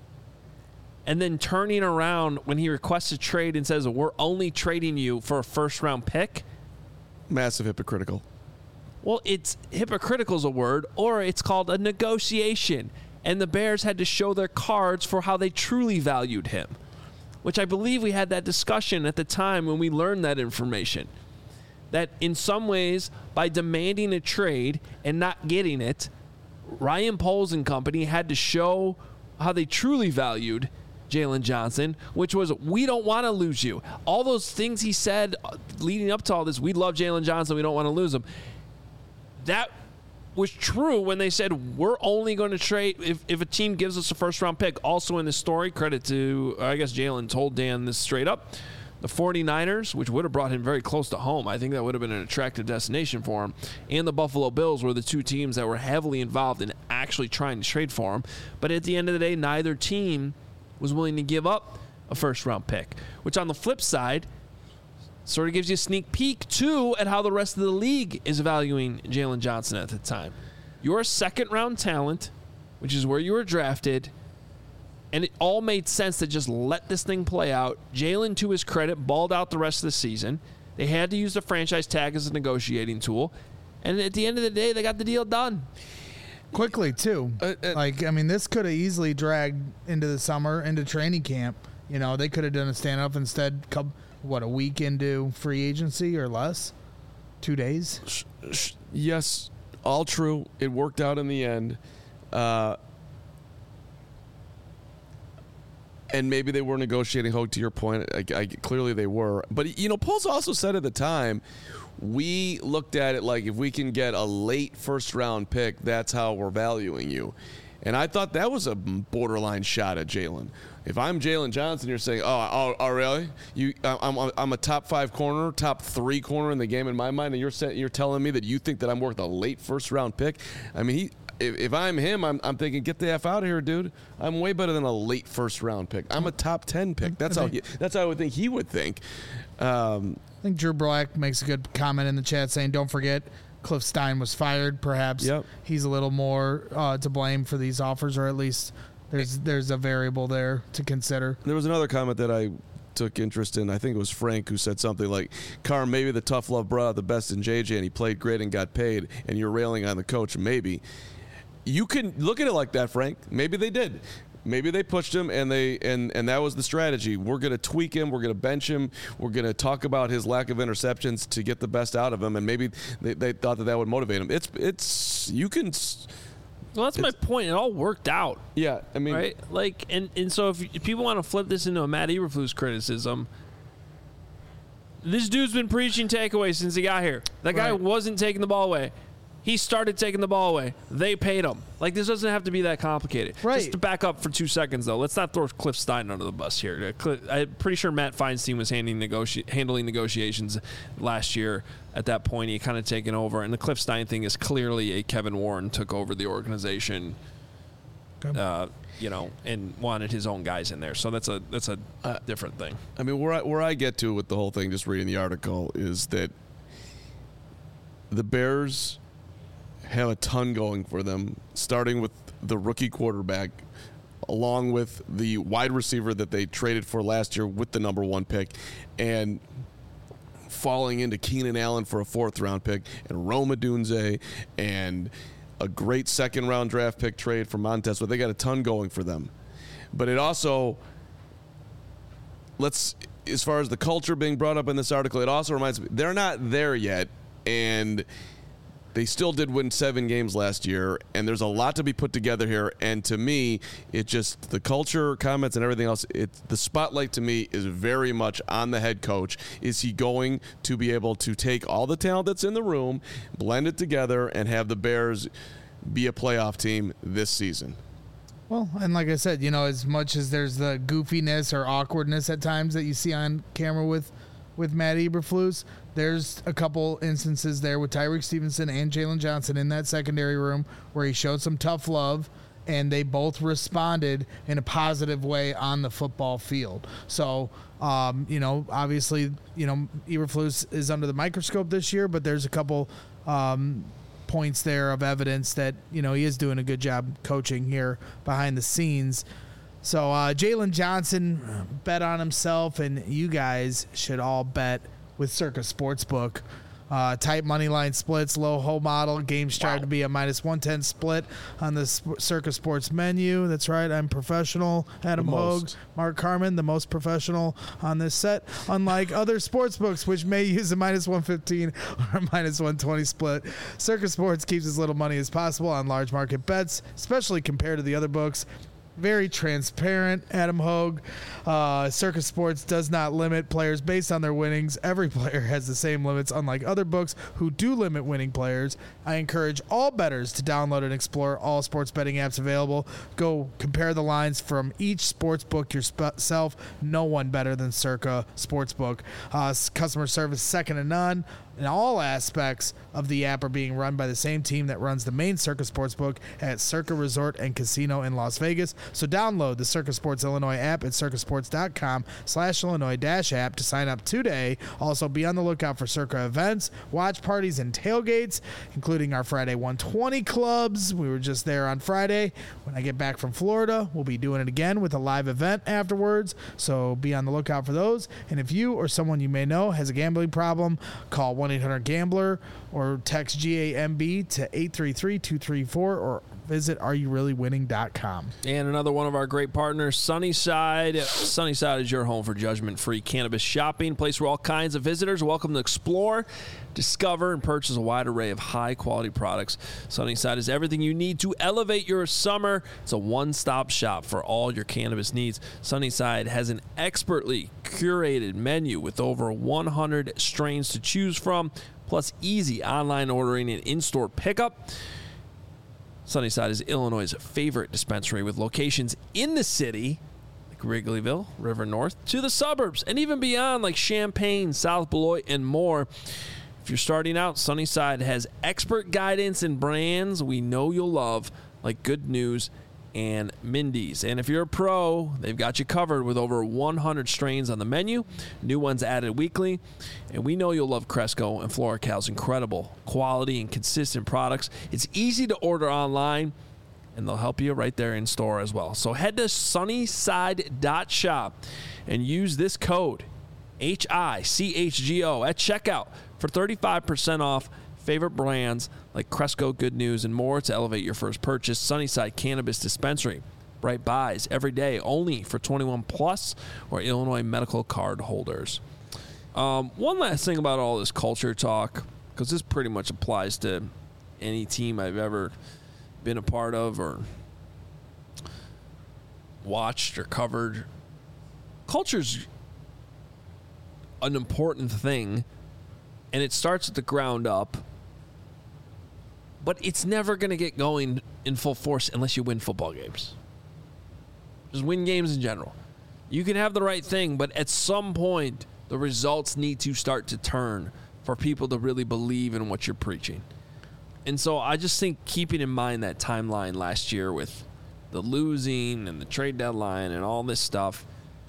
and then turning around when he requests a trade and says, we're only trading you for a first-round pick, Massive hypocritical. well, it's hypocritical is a word, or it's called a negotiation. And the Bears had to show their cards for how they truly valued him, which I believe we had that discussion at the time when we learned that information. That in some ways, by demanding a trade and not getting it, Ryan Poles and company had to show how they truly valued Jalen Johnson, which was, we don't want to lose you. All those things he said leading up to all this, we love Jalen Johnson, we don't want to lose him. That was true when they said, we're only going to trade if, if a team gives us a first-round pick. Also in this story, credit to, I guess Jalen told Dan this straight up, the 49ers, which would have brought him very close to home. I think that would have been an attractive destination for him. And the Buffalo Bills were the two teams that were heavily involved in actually trying to trade for him. But at the end of the day, neither team was willing to give up a first-round pick, which on the flip side sort of gives you a sneak peek, too, at how the rest of the league is valuing Jalen Johnson at the time. You're a second-round talent, which is where you were drafted, and it all made sense to just let this thing play out. Jalen, to his credit, balled out the rest of the season. They had to use the franchise tag as a negotiating tool, and at the end of the day, they got the deal done. Quickly, too. Uh, uh, like, I mean, this could have easily dragged into the summer, into training camp. You know, they could have done a stand-up instead, couple, what, a week into free agency or less? Two days? Sh- sh- yes, all true. It worked out in the end. Uh, and maybe they were negotiating, Hogue, to your point. I, I, clearly they were. But, you know, Poles also said at the time, we looked at it like if we can get a late first-round pick, that's how we're valuing you. And I thought that was a borderline shot at Jalen. If I'm Jalen Johnson, you're saying, oh, oh, oh really? You, I'm, I'm a top five corner, top three corner in the game in my mind, and you're saying, you're telling me that you think that I'm worth a late first-round pick? I mean, he, if, if I'm him, I'm, I'm thinking, get the F out of here, dude. I'm way better than a late first round pick. I'm a top ten pick. That's how he, that's how I would think he would think. Um, I think Drew Black makes a good comment in the chat saying, don't forget, Cliff Stein was fired. Perhaps Yep. he's a little more uh, to blame for these offers, or at least there's there's a variable there to consider. There was another comment that I took interest in. I think it was Frank who said something like, Carm, maybe the tough love brought out the best in J J and he played great and got paid, and you're railing on the coach. Maybe. You can look at it like that, Frank. Maybe they did. Maybe they pushed him, and they and, and that was the strategy. We're going to tweak him. We're going to bench him. We're going to talk about his lack of interceptions to get the best out of him, and maybe they, they thought that that would motivate him. It's it's you can. Well, that's my point. It all worked out. Yeah, I mean, right? Like, and, and so if, if people want to flip this into a Matt Eberflus criticism, this dude's been preaching takeaways since he got here. That guy Right. wasn't taking the ball away. He started taking the ball away. They paid him. Like, this doesn't have to be that complicated. Right. Just to back up for two seconds, though, let's not throw Cliff Stein under the bus here. I'm pretty sure Matt Feinstein was handling, negoti- handling negotiations last year. At that point, he kind of taken over. And the Cliff Stein thing is clearly a Kevin Warren took over the organization, Okay. uh, you know, and wanted his own guys in there. So that's a that's a Uh, different thing. I mean, where I, where I get to with the whole thing, just reading the article, is that the Bears have a ton going for them, starting with the rookie quarterback, along with the wide receiver that they traded for last year with the number one pick, and falling into Keenan Allen for a fourth round pick, and Rome Odunze, and a great second round draft pick trade for Montez. So they got a ton going for them. But it also, let's, as far as the culture being brought up in this article, it also reminds me, they're not there yet, and they still did win seven games last year, and there's a lot to be put together here. And to me, it just, the culture, comments, and everything else, it, the spotlight to me is very much on the head coach. Is he going to be able to take all the talent that's in the room, blend it together, and have the Bears be a playoff team this season? Well, and like I said, you know, as much as there's the goofiness or awkwardness at times that you see on camera with with Matt Eberflus, there's a couple instances there with Tyreek Stevenson and Jalen Johnson in that secondary room where he showed some tough love, and they both responded in a positive way on the football field. So, um, you know, obviously, you know, Eberflus is under the microscope this year, but there's a couple um, points there of evidence that, you know, he is doing a good job coaching here behind the scenes. So uh, Jalen Johnson bet on himself, and you guys should all bet with Circa Sportsbook. Uh, tight money line splits, low hole model. Game strive to be a minus one ten split on the Sp- Circa Sports menu. That's right. I'm professional. Adam Hogue, Mark Carmen, the most professional on this set. Unlike other sports books, which may use a minus one fifteen or a minus one twenty split, Circa Sports keeps as little money as possible on large market bets, especially compared to the other books. Very transparent, Adam Hogue. Uh, Circa Sports does not limit players based on their winnings. Every player has the same limits, unlike other books who do limit winning players. I encourage all bettors to download and explore all sports betting apps available. Go compare the lines from each sports book yourself. No one better than Circa Sportsbook. Uh, customer service second to none. And all aspects of the app are being run by the same team that runs the main Circa Sportsbook at Circa Resort and Casino in Las Vegas. So download the Circa Sports Illinois app at circasports.com slash Illinois dash app to sign up today. Also, be on the lookout for Circa events, watch parties, and tailgates, including our Friday one twenty clubs. We were just there on Friday. When I get back from Florida, we'll be doing it again with a live event afterwards. So be on the lookout for those. And if you or someone you may know has a gambling problem, call one eight hundred gambler or text G A M B to eight three three two three four or visit are you really winning dot com. And another one of our great partners, Sunnyside. Sunnyside is your home for judgment-free cannabis shopping, place where all kinds of visitors are welcome to explore, discover, and purchase a wide array of high-quality products. Sunnyside is everything you need to elevate your summer. It's a one-stop shop for all your cannabis needs. Sunnyside has an expertly curated menu with over one hundred strains to choose from, plus easy online ordering and in-store pickup. Sunnyside is Illinois' favorite dispensary with locations in the city, like Wrigleyville, River North, to the suburbs, and even beyond, like Champaign, South Beloit, and more. If you're starting out, Sunnyside has expert guidance and brands we know you'll love, like Good News and Mindy's. And if you're a pro, they've got you covered with over one hundred strains on the menu, new ones added weekly. And we know you'll love Cresco and FloraCal's incredible quality and consistent products. It's easy to order online, and they'll help you right there in store as well. So head to sunnyside dot shop and use this code, H I C H G O, at checkout for thirty-five percent off favorite brands like Cresco, Good News, and more to elevate your first purchase. Sunnyside Cannabis Dispensary. Bright buys every day, only for twenty-one plus or Illinois medical card holders. Um, one last thing about all this culture talk, because this pretty much applies to any team I've ever been a part of or watched or covered. Culture's an important thing, and it starts at the ground up, but it's never going to get going in full force unless you win football games. Just win games in general. You can have the right thing, but at some point, the results need to start to turn for people to really believe in what you're preaching. And so I just think keeping in mind that timeline last year with the losing and the trade deadline and all this stuff,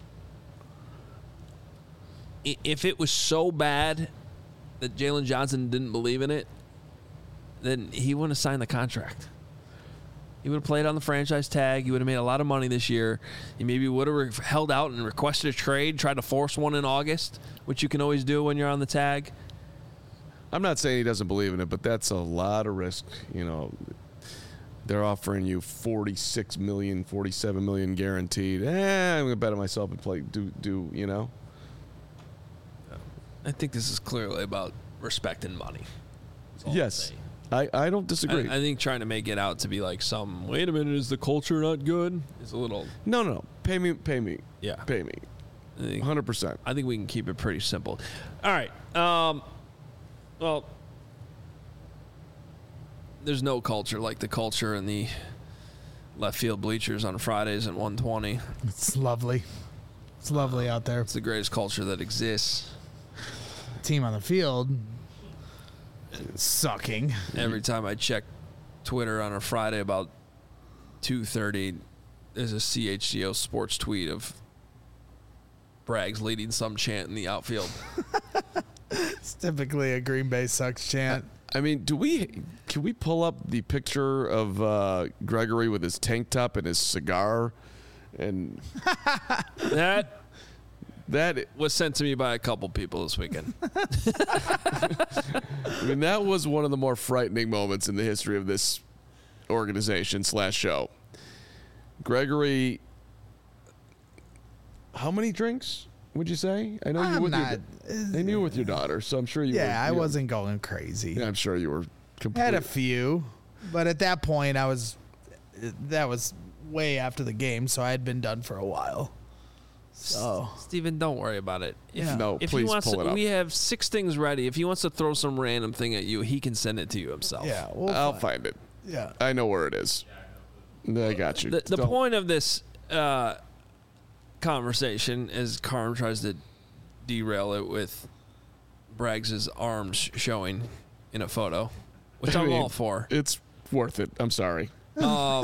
if it was so bad that Jalen Johnson didn't believe in it, then he wouldn't have signed the contract. He would have played on the franchise tag. He would have made a lot of money this year. He maybe would have held out and requested a trade, tried to force one in August, which you can always do when you're on the tag. I'm not saying he doesn't believe in it, but that's a lot of risk. You know, they're offering you forty-six million dollars, forty-seven million dollars guaranteed. Eh, I'm going to bet on myself and play, do, do, you know. I think this is clearly about respect and money. Yes. I, I don't disagree. I, I think trying to make it out to be like some, wait a minute, is the culture not good? Is a little. No, no, no. Pay me, pay me. Yeah. Pay me. I think, one hundred percent. I think we can keep it pretty simple. All right. Um, well, there's no culture like the culture in the left field bleachers on Fridays at one twenty. It's lovely. It's lovely out there. It's the greatest culture that exists. Team on the field, sucking. Every time I check Twitter on a Friday about two thirty, there's a C H G O sports tweet of Braggs leading some chant in the outfield. It's typically a Green Bay sucks chant. I mean, do we can we pull up the picture of uh, Gregory with his tank top and his cigar, and That that was sent to me by a couple people this weekend. I mean that was one of the more frightening moments in the history of this organization slash show. Gregory, how many drinks would you say? I know you I'm with not. your, I knew with your daughter, so I'm sure you. Yeah, were, I you know, wasn't going crazy. Yeah, I'm sure you were. I Completely. had a few, but at that point, I was. That was way after the game, so I had been done for a while. So Steven, don't worry about it. If, Yeah. No, if please he wants pull to, it up. we have six things ready. If he wants to throw some random thing at you, he can send it to you himself. yeah, we'll I'll find- find it. Yeah, I know where it is. I got you. The, the Don't- point of this uh, conversation, as Carm tries to derail it with Braggs' arms showing in a photo, which I I'm mean, all for, It's worth it. I'm sorry. um,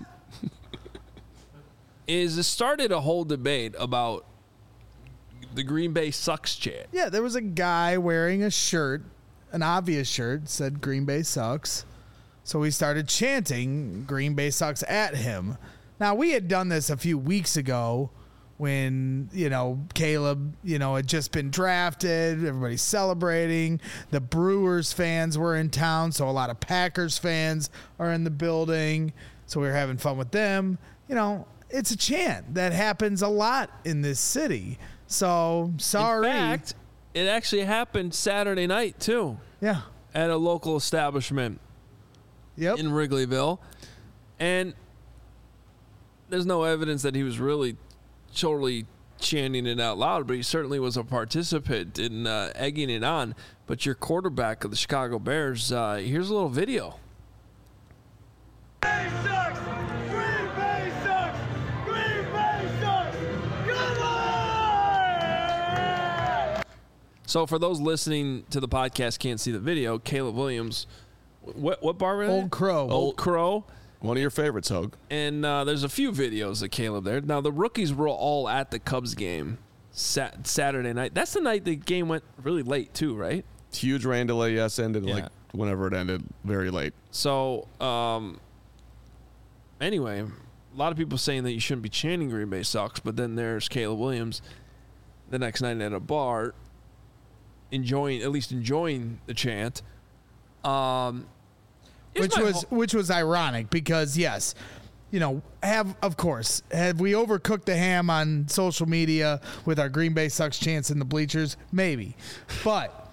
is it started a whole debate about the Green Bay sucks chant. yeah. There was a guy wearing a shirt, an obvious shirt, said Green Bay sucks. So we started chanting Green Bay sucks at him. Now, we had done this a few weeks ago when, you know, Caleb, you know, had just been drafted. Everybody's celebrating. The Brewers fans were in town, so a lot of Packers fans are in the building. So we were having fun with them. You know, it's a chant that happens a lot in this city. So, sorry. In fact, it actually happened Saturday night, too, yeah. at a local establishment Yep. in Wrigleyville. And there's no evidence that he was really totally chanting it out loud, but he certainly was a participant in uh, egging it on. But your quarterback of the Chicago Bears, uh, here's a little video. Bay sucks! Green Bay sucks! Green Bay sucks! Come on! So for those listening to the podcast can't see the video, Caleb Williams, what what bar were they? Old Crow. Old Crow. One of your favorites, Hogue. And uh, there's a few videos of Caleb there. Now, the rookies were all at the Cubs game sat- Saturday night. That's the night the game went really late, too, right? Huge rain delay, yes, ended Yeah. like whenever it ended, very late. So, um, anyway, a lot of people saying that you shouldn't be chanting Green Bay sucks, but then there's Caleb Williams the next night at a bar enjoying, at least enjoying the chant. Um, here's which my was ho- which was ironic because yes, you know, have of course have we overcooked the ham on social media with our Green Bay sucks chants in the bleachers? Maybe, but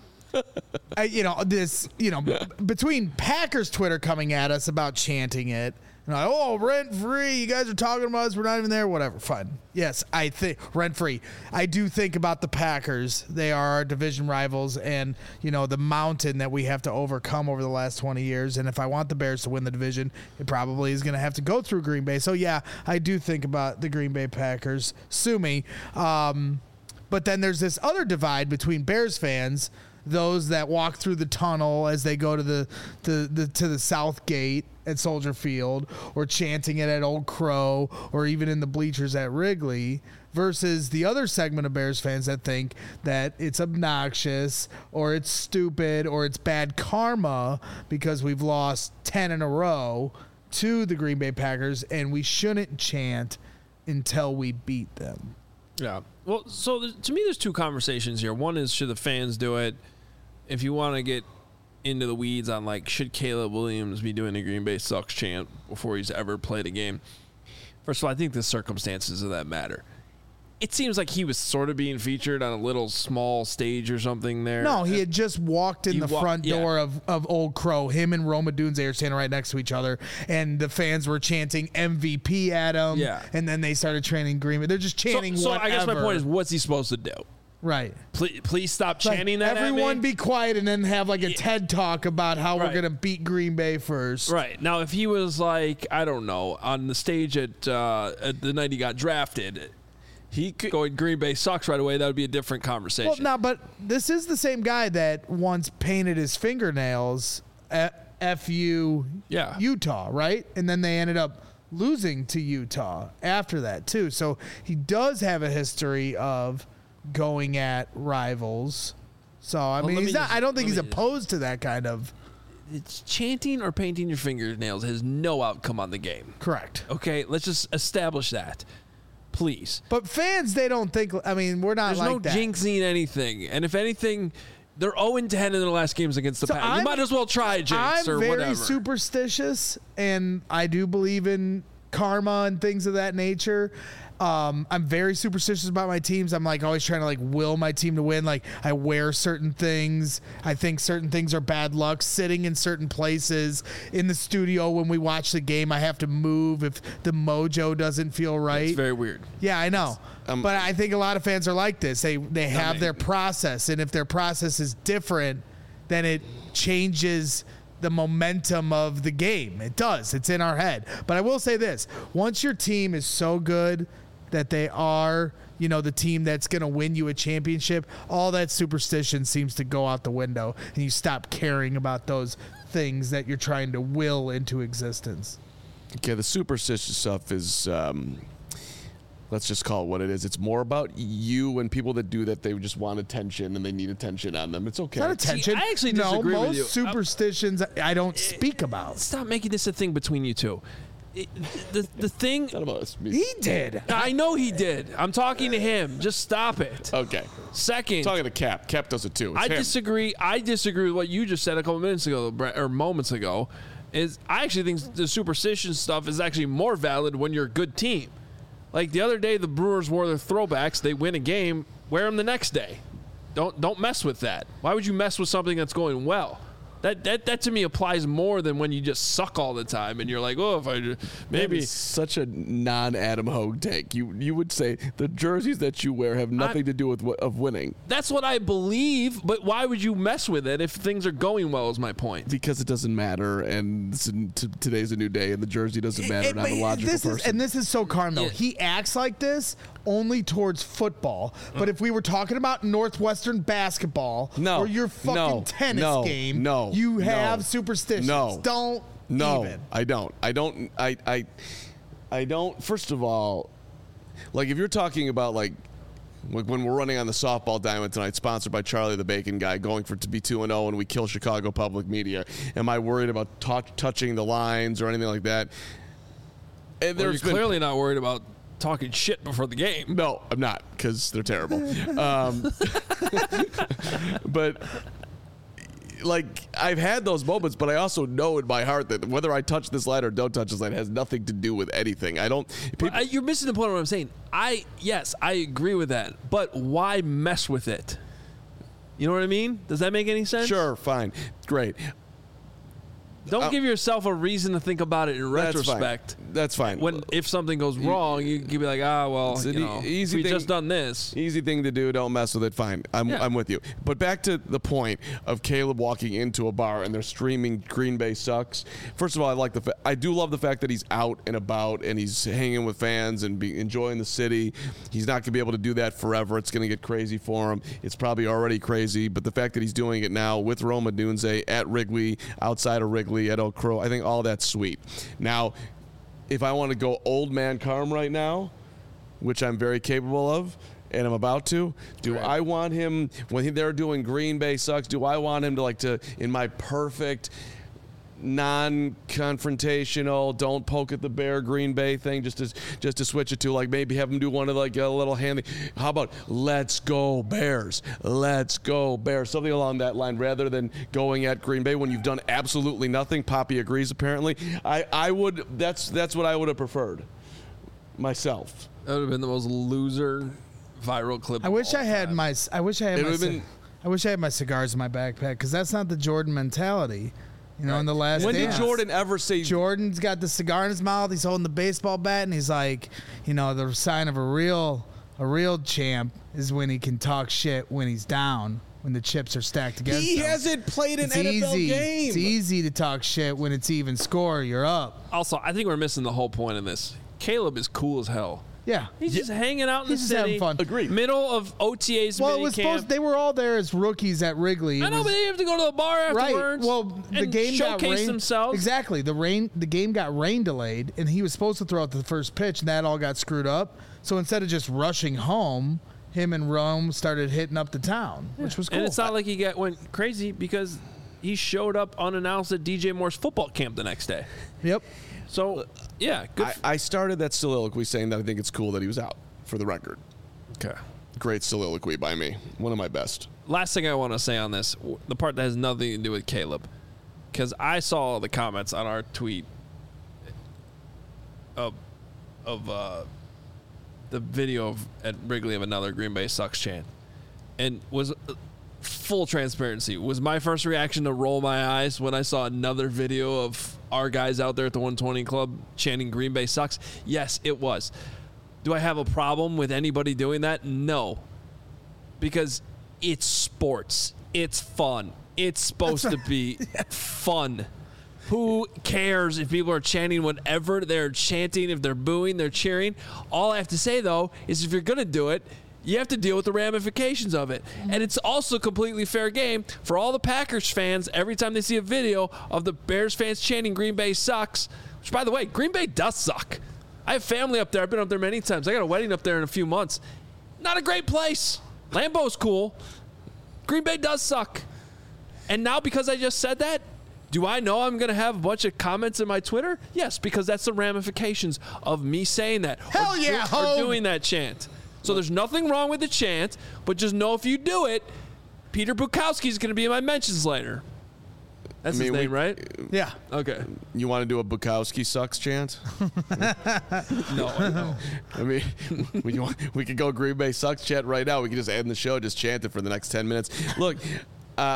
uh, you know this, you know, b- between Packers Twitter coming at us about chanting it. And like, oh, rent free. You guys are talking about us. We're not even there. Whatever. Fine. Yes, I think rent free. I do think about the Packers. They are our division rivals, and you know the mountain that we have to overcome over the last twenty years. And if I want the Bears to win the division, it probably is going to have to go through Green Bay. So yeah, I do think about the Green Bay Packers. Sue me. Um, but then there's this other divide between Bears fans. Those that walk through the tunnel as they go to the, the, the to the south gate at Soldier Field, or chanting it at Old Crow, or even in the bleachers at Wrigley, versus the other segment of Bears fans that think that it's obnoxious, or it's stupid, or it's bad karma because we've lost ten in a row to the Green Bay Packers, and we shouldn't chant until we beat them. Yeah. Well, so th- to me, there's two conversations here. One is, should the fans do it? If you want to get into the weeds on, like, should Caleb Williams be doing a Green Bay sucks chant before he's ever played a game? First of all, I think the circumstances of that matter. It seems like he was sort of being featured on a little small stage or something there. No, he had just walked in He the wa- front yeah. door of, of Old Crow. Him and Roma Dunze are standing right next to each other, and the fans were chanting M V P at him. Yeah. And then they started chanting Green Bay. They're just So, chanting so I guess my whatever. point is, what's he supposed to do? Right. Please, please stop Like, chanting that at everyone me? be quiet and then have like a TED talk about how Right. we're going to beat Green Bay first. Right. Now, if he was like, I don't know, on the stage at, uh, at the night he got drafted, he could go Green Bay sucks right away. That would be a different conversation. Well, now, but this is the same guy that once painted his fingernails at F U Yeah. Utah, right? And then they ended up losing to Utah after that, too. So he does have a history of going at rivals. So, I Well, mean, let he's me not, just- I don't think let he's me just- opposed to that kind of. It's chanting or painting your fingernails has no outcome on the game. Correct. Okay, let's just establish that, please. But fans, they don't think, I mean, we're not There's like no that. jinxing anything, and if anything, they're oh and ten in their last games against the So Packers. You I'm- might as well try a jinx I'm or very whatever. superstitious, and I do believe in karma and things of that nature. Um, I'm very superstitious about my teams. I'm like always trying to like will my team to win. Like I wear certain things. I think certain things are bad luck. Sitting in certain places in the studio when we watch the game, I have to move if the mojo doesn't feel right. It's very weird. Yeah, I know. Um, but I think a lot of fans are like this. They they have mean- their process, and if their process is different, then it changes the momentum of the game. It does. It's in our head. But I will say this. Once your team is so good that they are, you know, the team that's going to win you a championship, all that superstition seems to go out the window, and you stop caring about those things that you're trying to will into existence. Okay, the superstitious stuff is, um, let's just call it what it is. It's more about you and people that do that. They just want attention and they need attention on them. It's okay. Not attention. I actually no, disagree with most you. superstitions I don't speak about. Stop making this a thing between you two. It, the the thing. It's not about us. He did. I know he did. I'm talking to him. Just stop it. Okay. Second, Talking to Cap. Cap does it too. It's I him. disagree. I disagree with what you just said a couple minutes ago, Brett, or moments ago. Is I actually think the superstition stuff is actually more valid when you're a good team. Like the other day, the Brewers wore their throwbacks. They win a game. Wear them the next day. Don't don't mess with that. Why would you mess with something that's going well? That, that that to me applies more than when you just suck all the time and you're like, oh, if I just, maybe That is such a non-Adam Hogue take. You you would say the jerseys that you wear have nothing I, to do with w- of winning. That's what I believe, but why would you mess with it if things are going well? Is my point. Because it doesn't matter, and this is, t- today's a new day, and the jersey doesn't matter. It- and I'm a but logical this is, person. and this is so Carmel. Yeah. He acts like this only towards football. But if we were talking about Northwestern basketball No, or your fucking no, tennis no, game, no, you have no, superstitions. no, Don't No, even. I don't. I don't. I, I, I don't. First of all, like if you're talking about like, like when we're running on the softball diamond tonight, sponsored by Charlie the Bacon Guy, going for to be two and zero, and we kill Chicago public media. Am I worried about t- touching the lines or anything like that? And Well, you're there's been- clearly not worried about talking shit before the game. No, I'm not, because they're terrible. um, but like I've had those moments, but I also know in my heart that whether I touch this line or don't touch this line has nothing to do with anything. I don't. People, I, you're missing the point of what I'm saying. I yes, I agree with that, but why mess with it? You know what I mean? Does that make any sense? sure, fine, great. Don't Uh, give yourself a reason to think about it in That's retrospect. fine. That's fine. When if something goes wrong, you can be like, ah, well, It's you an e- know, easy we thing- just done this. Easy thing to do. Don't mess with it. Fine. I'm, Yeah. I'm with you. But back to the point of Caleb walking into a bar and they're streaming Green Bay sucks. First of all, I like the fa- I do love the fact that he's out and about and he's hanging with fans and be enjoying the city. He's not going to be able to do that forever. It's going to get crazy for him. It's probably already crazy. But the fact that he's doing it now with Rome Odunze at Wrigley, outside of Wrigley, at Oak Crow, I think all that's sweet. Now, if I want to go old man Carm right now, which I'm very capable of, and I'm about to, do Right. I want him, when he- they're doing Green Bay sucks, do I want him to like to, in my perfect non-confrontational, don't poke at the bear Green Bay thing, just to just to switch it to like maybe have him do one of like a little hand thing. How about let's go Bears, let's go Bears, something along that line, rather than going at Green Bay when you've done absolutely nothing. Poppy agrees apparently. I I would that's that's what I would have preferred myself. That would have been the most loser viral clip. I of wish all I had time. my. I wish I had It my. would've ci- been- I wish I had my cigars in my backpack because that's not the Jordan mentality. You know, in the last. When did dance. Jordan ever say Jordan's got the cigar in his mouth. He's holding the baseball bat, and he's like, you know, the sign of a real, a real champ is when he can talk shit when he's down, when the chips are stacked against he him. hasn't played an It's N F L easy. game? It's easy to talk shit when it's even score. You're up. Also, I think we're missing the whole point of this. Caleb is cool as hell. Yeah. He's just hanging out in He's the just city. having fun. Agreed. Middle of O T As, Well, it mini was camp. supposed. They were all there as rookies at Wrigley. It I know, was- but they have to go to the bar afterwards. Right. Well, the and game got showcase rain. themselves. Exactly. The rain. The game got rain delayed, and he was supposed to throw out the first pitch, and that all got screwed up. So instead of just rushing home, him and Rome started hitting up the town, which was cool. And it's not like he got went crazy because he showed up unannounced at D J Moore's football camp the next day. Yep. So, yeah, good. I, f- I started that soliloquy saying that I think it's cool that he was out, for the record. okay. Great soliloquy by me. One of my best. Last thing I want to say on this, w- the part that has nothing to do with Caleb, because I saw the comments on our tweet of of uh, the video of at Wrigley of another Green Bay sucks chant, and was uh, full transparency. Was my first reaction to roll my eyes when I saw another video of our guys out there at the one twenty Club chanting Green Bay sucks? Yes, it was. Do I have a problem with anybody doing that? No. Because it's sports. It's fun. It's supposed to be fun. Who cares if people are chanting whatever they're chanting, if they're booing, they're cheering? All I have to say, though, is if you're going to do it, you have to deal with the ramifications of it. And it's also completely fair game for all the Packers fans every time they see a video of the Bears fans chanting Green Bay sucks, which, by the way, Green Bay does suck. I have family up there. I've been up there many times. I got a wedding up there in a few months. Not a great place. Lambeau's cool. Green Bay does suck. And now because I just said that, do I know I'm going to have a bunch of comments in my Twitter? Yes, because that's the ramifications of me saying that. Hell or, yeah, or Hogue. doing that chant. So there's nothing wrong with the chant, but just know if you do it, Peter Bukowski is going to be in my mentions later. That's I mean, his name, we- right? Yeah. Okay. You want to do a Bukowski sucks chant? No, no. I mean, we, want, we could go Green Bay sucks chant right now. We could just end the show, just chant it for the next ten minutes. Look, uh,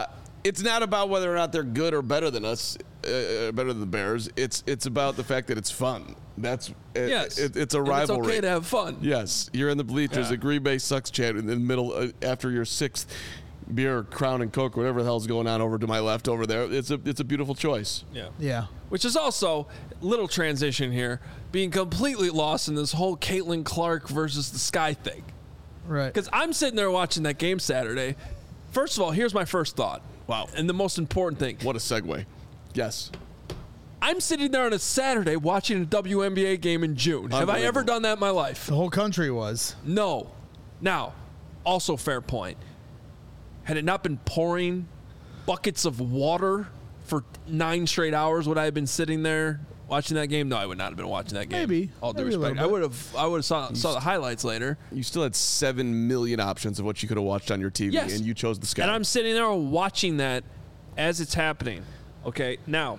it's not about whether or not they're good or better than us, uh, better than the Bears. It's it's about the fact that it's fun. That's it, Yes. It, it's a And rivalry. It's okay to have fun. Yes, you're in the bleachers. Yeah. The Green Bay sucks chant in the middle uh, after your sixth beer, Crown and Coke, whatever the hell's going on over to my left over there. It's a it's a beautiful choice. Yeah. Yeah. Which is also little transition here, being completely lost in this whole Caitlin Clark versus the Sky thing. Right. Because I'm sitting there watching that game Saturday. First of all, here's my first thought. Wow. And the most important thing. What a segue. Yes. I'm sitting there on a Saturday watching a W N B A game in June. Have I ever Unbelievable. done that in my life? The whole country was. No. Now, also fair point. Had it not been pouring buckets of water for nine straight hours, would I have been sitting there watching that game? No, I would not have been watching that game. Maybe. All due Maybe a respect. little I bit. would have I would have saw, saw the highlights later. You still had seven million options of what you could have watched on your T V, Yes. and you chose the Sky. And I'm sitting there watching that as it's happening. Okay, now,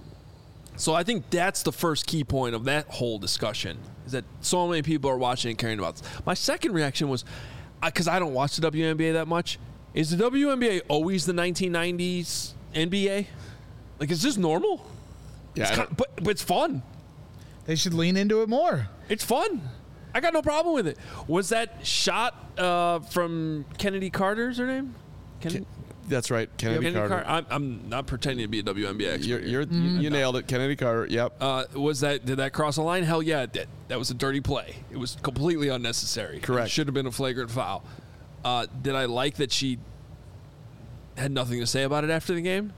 so I think that's the first key point of that whole discussion, is that so many people are watching and caring about this. My second reaction was, because I don't watch the W N B A that much, is the W N B A always the nineteen nineties N B A? Like, is this normal? yeah, It's I kind don't- but, but it's fun. They should lean into it more. It's fun. I got no problem with it. Was that shot uh, from Kennedy Carter's her name? Kennedy, that's right. Kennedy Kennedy Carter. Carter. I'm, I'm not pretending to be a W N B A expert. You're, you're, You nailed it. Kennedy Carter. Yep. Uh, was that did that cross the line? Hell yeah, it did. That was a dirty play. It was completely unnecessary. Correct. It should have been a flagrant foul. Uh, did I like that she had nothing to say about it after the game?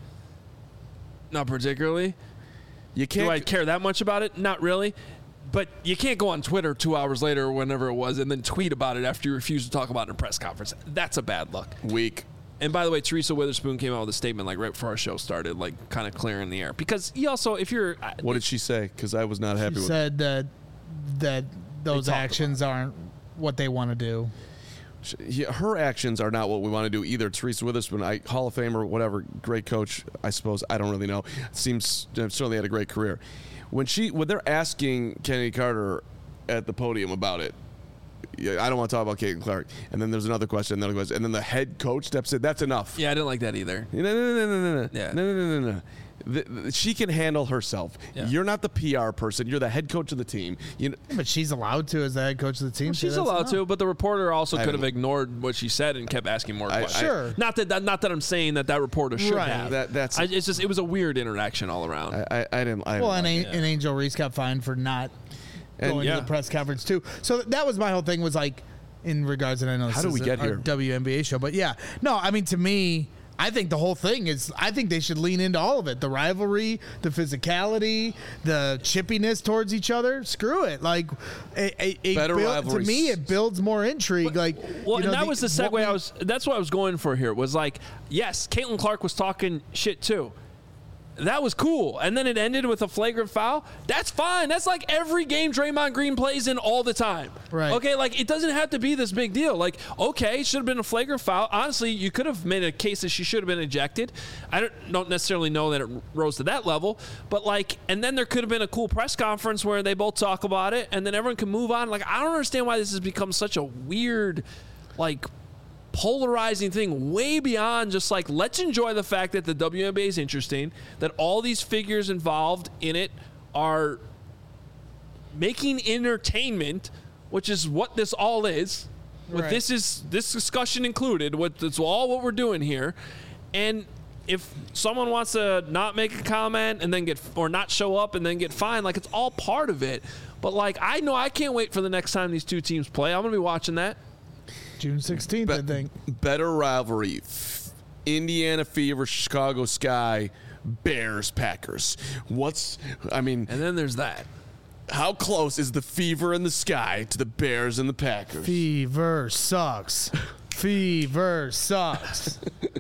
Not particularly. you Do can't. I care that much about it? Not really. But you can't go on Twitter two hours later or whenever it was and then tweet about it after you refuse to talk about it in a press conference. That's a bad look. Weak. And by the way, Teresa Witherspoon came out with a statement like right before our show started, like kind of clearing the air. Because he also, if you're... What did she say? Because I was not happy She with. said that that those talked actions aren't what they want to do. She- yeah, her actions are not what we want to do either. Teresa Witherspoon, I, Hall of Famer, whatever, great coach, I suppose. I don't really know. Seems uh, certainly had a great career. When she, when they're asking Kennedy Carter at the podium about it, yeah, I don't want to talk about Caitlin Clark. And then there's another question, another question, and then the head coach steps in. That's enough. Yeah, I didn't like that either. No, no, no, no, no, no, Yeah. no, no, no, no, no. The, the, she can handle herself. Yeah. You're not the P R person. You're the head coach of the team. You know, But she's allowed to as the head coach of the team. so She's that's allowed enough. to, but the reporter also I could have don't- ignored what she said and kept asking more I- questions. I- Sure. Not that, that not that I'm saying that that reporter should Right. have. That- that's- I, it's just it was a weird interaction all around. I, I, I didn't. I Well, didn't and, like A- and Angel Reese got fined for not And- going yeah. to the press conference too. So that was my whole thing. Was like in regards, and I know this How do is we a- get our here? W N B A show, but yeah, no, I mean to me, I think the whole thing is. I think they should lean into all of it: the rivalry, the physicality, the chippiness towards each other. Screw it, like a, a, a Better build- to rivalries. me, it builds more intrigue. Like, Well, you know, and that was the segue what we- I was. That's what I was going for here. Was like, yes, Caitlin Clark was talking shit too. That was cool, and then it ended with a flagrant foul. That's fine. That's like every game Draymond Green plays in all the time. Right. Okay, like it doesn't have to be this big deal. Like, okay, should have been a flagrant foul. Honestly, you could have made a case that she should have been ejected. I don't, don't necessarily know that it rose to that level, but like, and then there could have been a cool press conference where they both talk about it, and then everyone can move on. Like, I don't understand why this has become such a weird, like, polarizing thing way beyond just like, let's enjoy the fact that the W N B A is interesting, that all these figures involved in it are making entertainment, which is what this all is. What Right. this is, this discussion included, what it's all what we're doing here. And if someone wants to not make a comment and then get, or not show up and then get fined, like it's all part of it. But like, I know I can't wait for the next time these two teams play. I'm gonna be watching that. June sixteenth, I Be- think. better rivalry. F- Indiana Fever, Chicago Sky, Bears, Packers. What's, I mean, And then there's that. how close is the Fever and the Sky to the Bears and the Packers? Fever sucks. Fever sucks.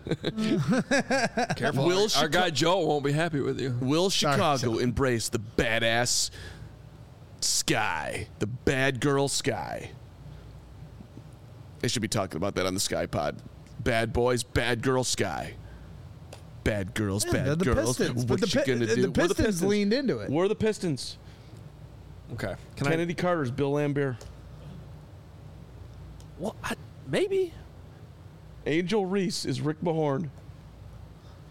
Careful. Will our, our Chica- guy Joe won't be happy with you. Will Chicago Sorry. embrace the badass Sky, the bad girl Sky? They should be talking about that on the Sky Pod. Bad boys, bad girl Sky. Bad girls, They're bad the girls. Pistons, but What the you Pi- gonna the do? We're Pistons leaned into it. We're the Pistons. Okay. Can Kennedy Carter's Bill Laimbeer. I? Well, I, maybe. Angel Reese is Rick Mahorn.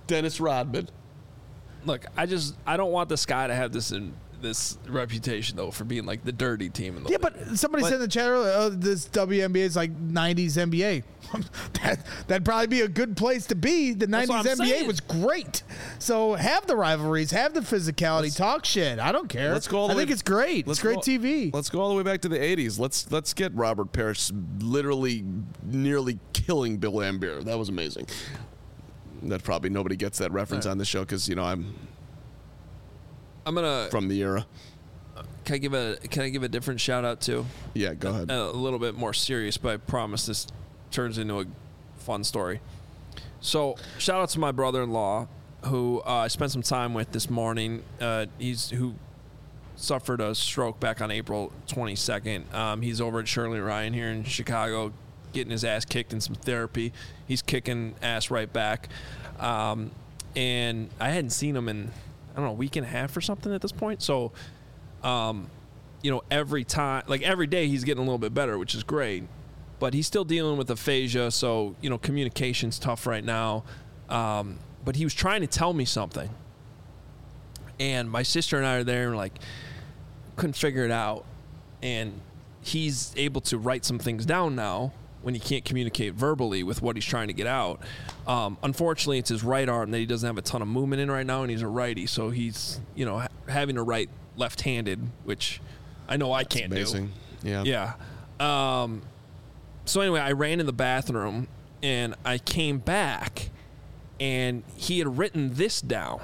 Dennis Rodman. Look, I just I don't want the Sky to have this in, this reputation though for being like the dirty team in the Yeah, league. but somebody But- said in the chat earlier, oh, this W N B A is like nineties N B A. that, that'd probably be a good place to be. The That's what nineties I'm N B A saying. was great. So have the rivalries, have the physicality, Let's- talk shit. I don't care. Let's go all the I think way- it's great. Let's It's great go- T V. Let's go all the way back to the eighties. Let's let's get Robert Parrish literally nearly killing Bill Laimbeer. That was amazing. That probably nobody gets that reference Right. on the show because you know I'm I'm gonna from the era. can I give a can I give a different shout out too? Yeah, go ahead. A little bit more serious, but I promise this turns into a fun story. So shout out to my brother-in-law who uh, I spent some time with this morning. Uh, he's who suffered a stroke back on April twenty-second. Um, he's over at Shirley Ryan here in Chicago, getting his ass kicked in some therapy. He's kicking ass right back. Um, and I hadn't seen him in, I don't know, a week and a half or something at this point. So, um, you know, every time, like every day he's getting a little bit better, which is great. But he's still dealing with aphasia, so, you know, communication's tough right now. Um, but he was trying to tell me something. And my sister and I are there and, like, couldn't figure it out. And he's able to write some things down now when he can't communicate verbally with what he's trying to get out. Um, unfortunately, it's his right arm that he doesn't have a ton of movement in right now, and he's a righty. So he's, you know, ha- having to write left-handed, which I know I can't Amazing. Yeah. do. Yeah. Um, so anyway, I ran in the bathroom, and I came back, and he had written this down.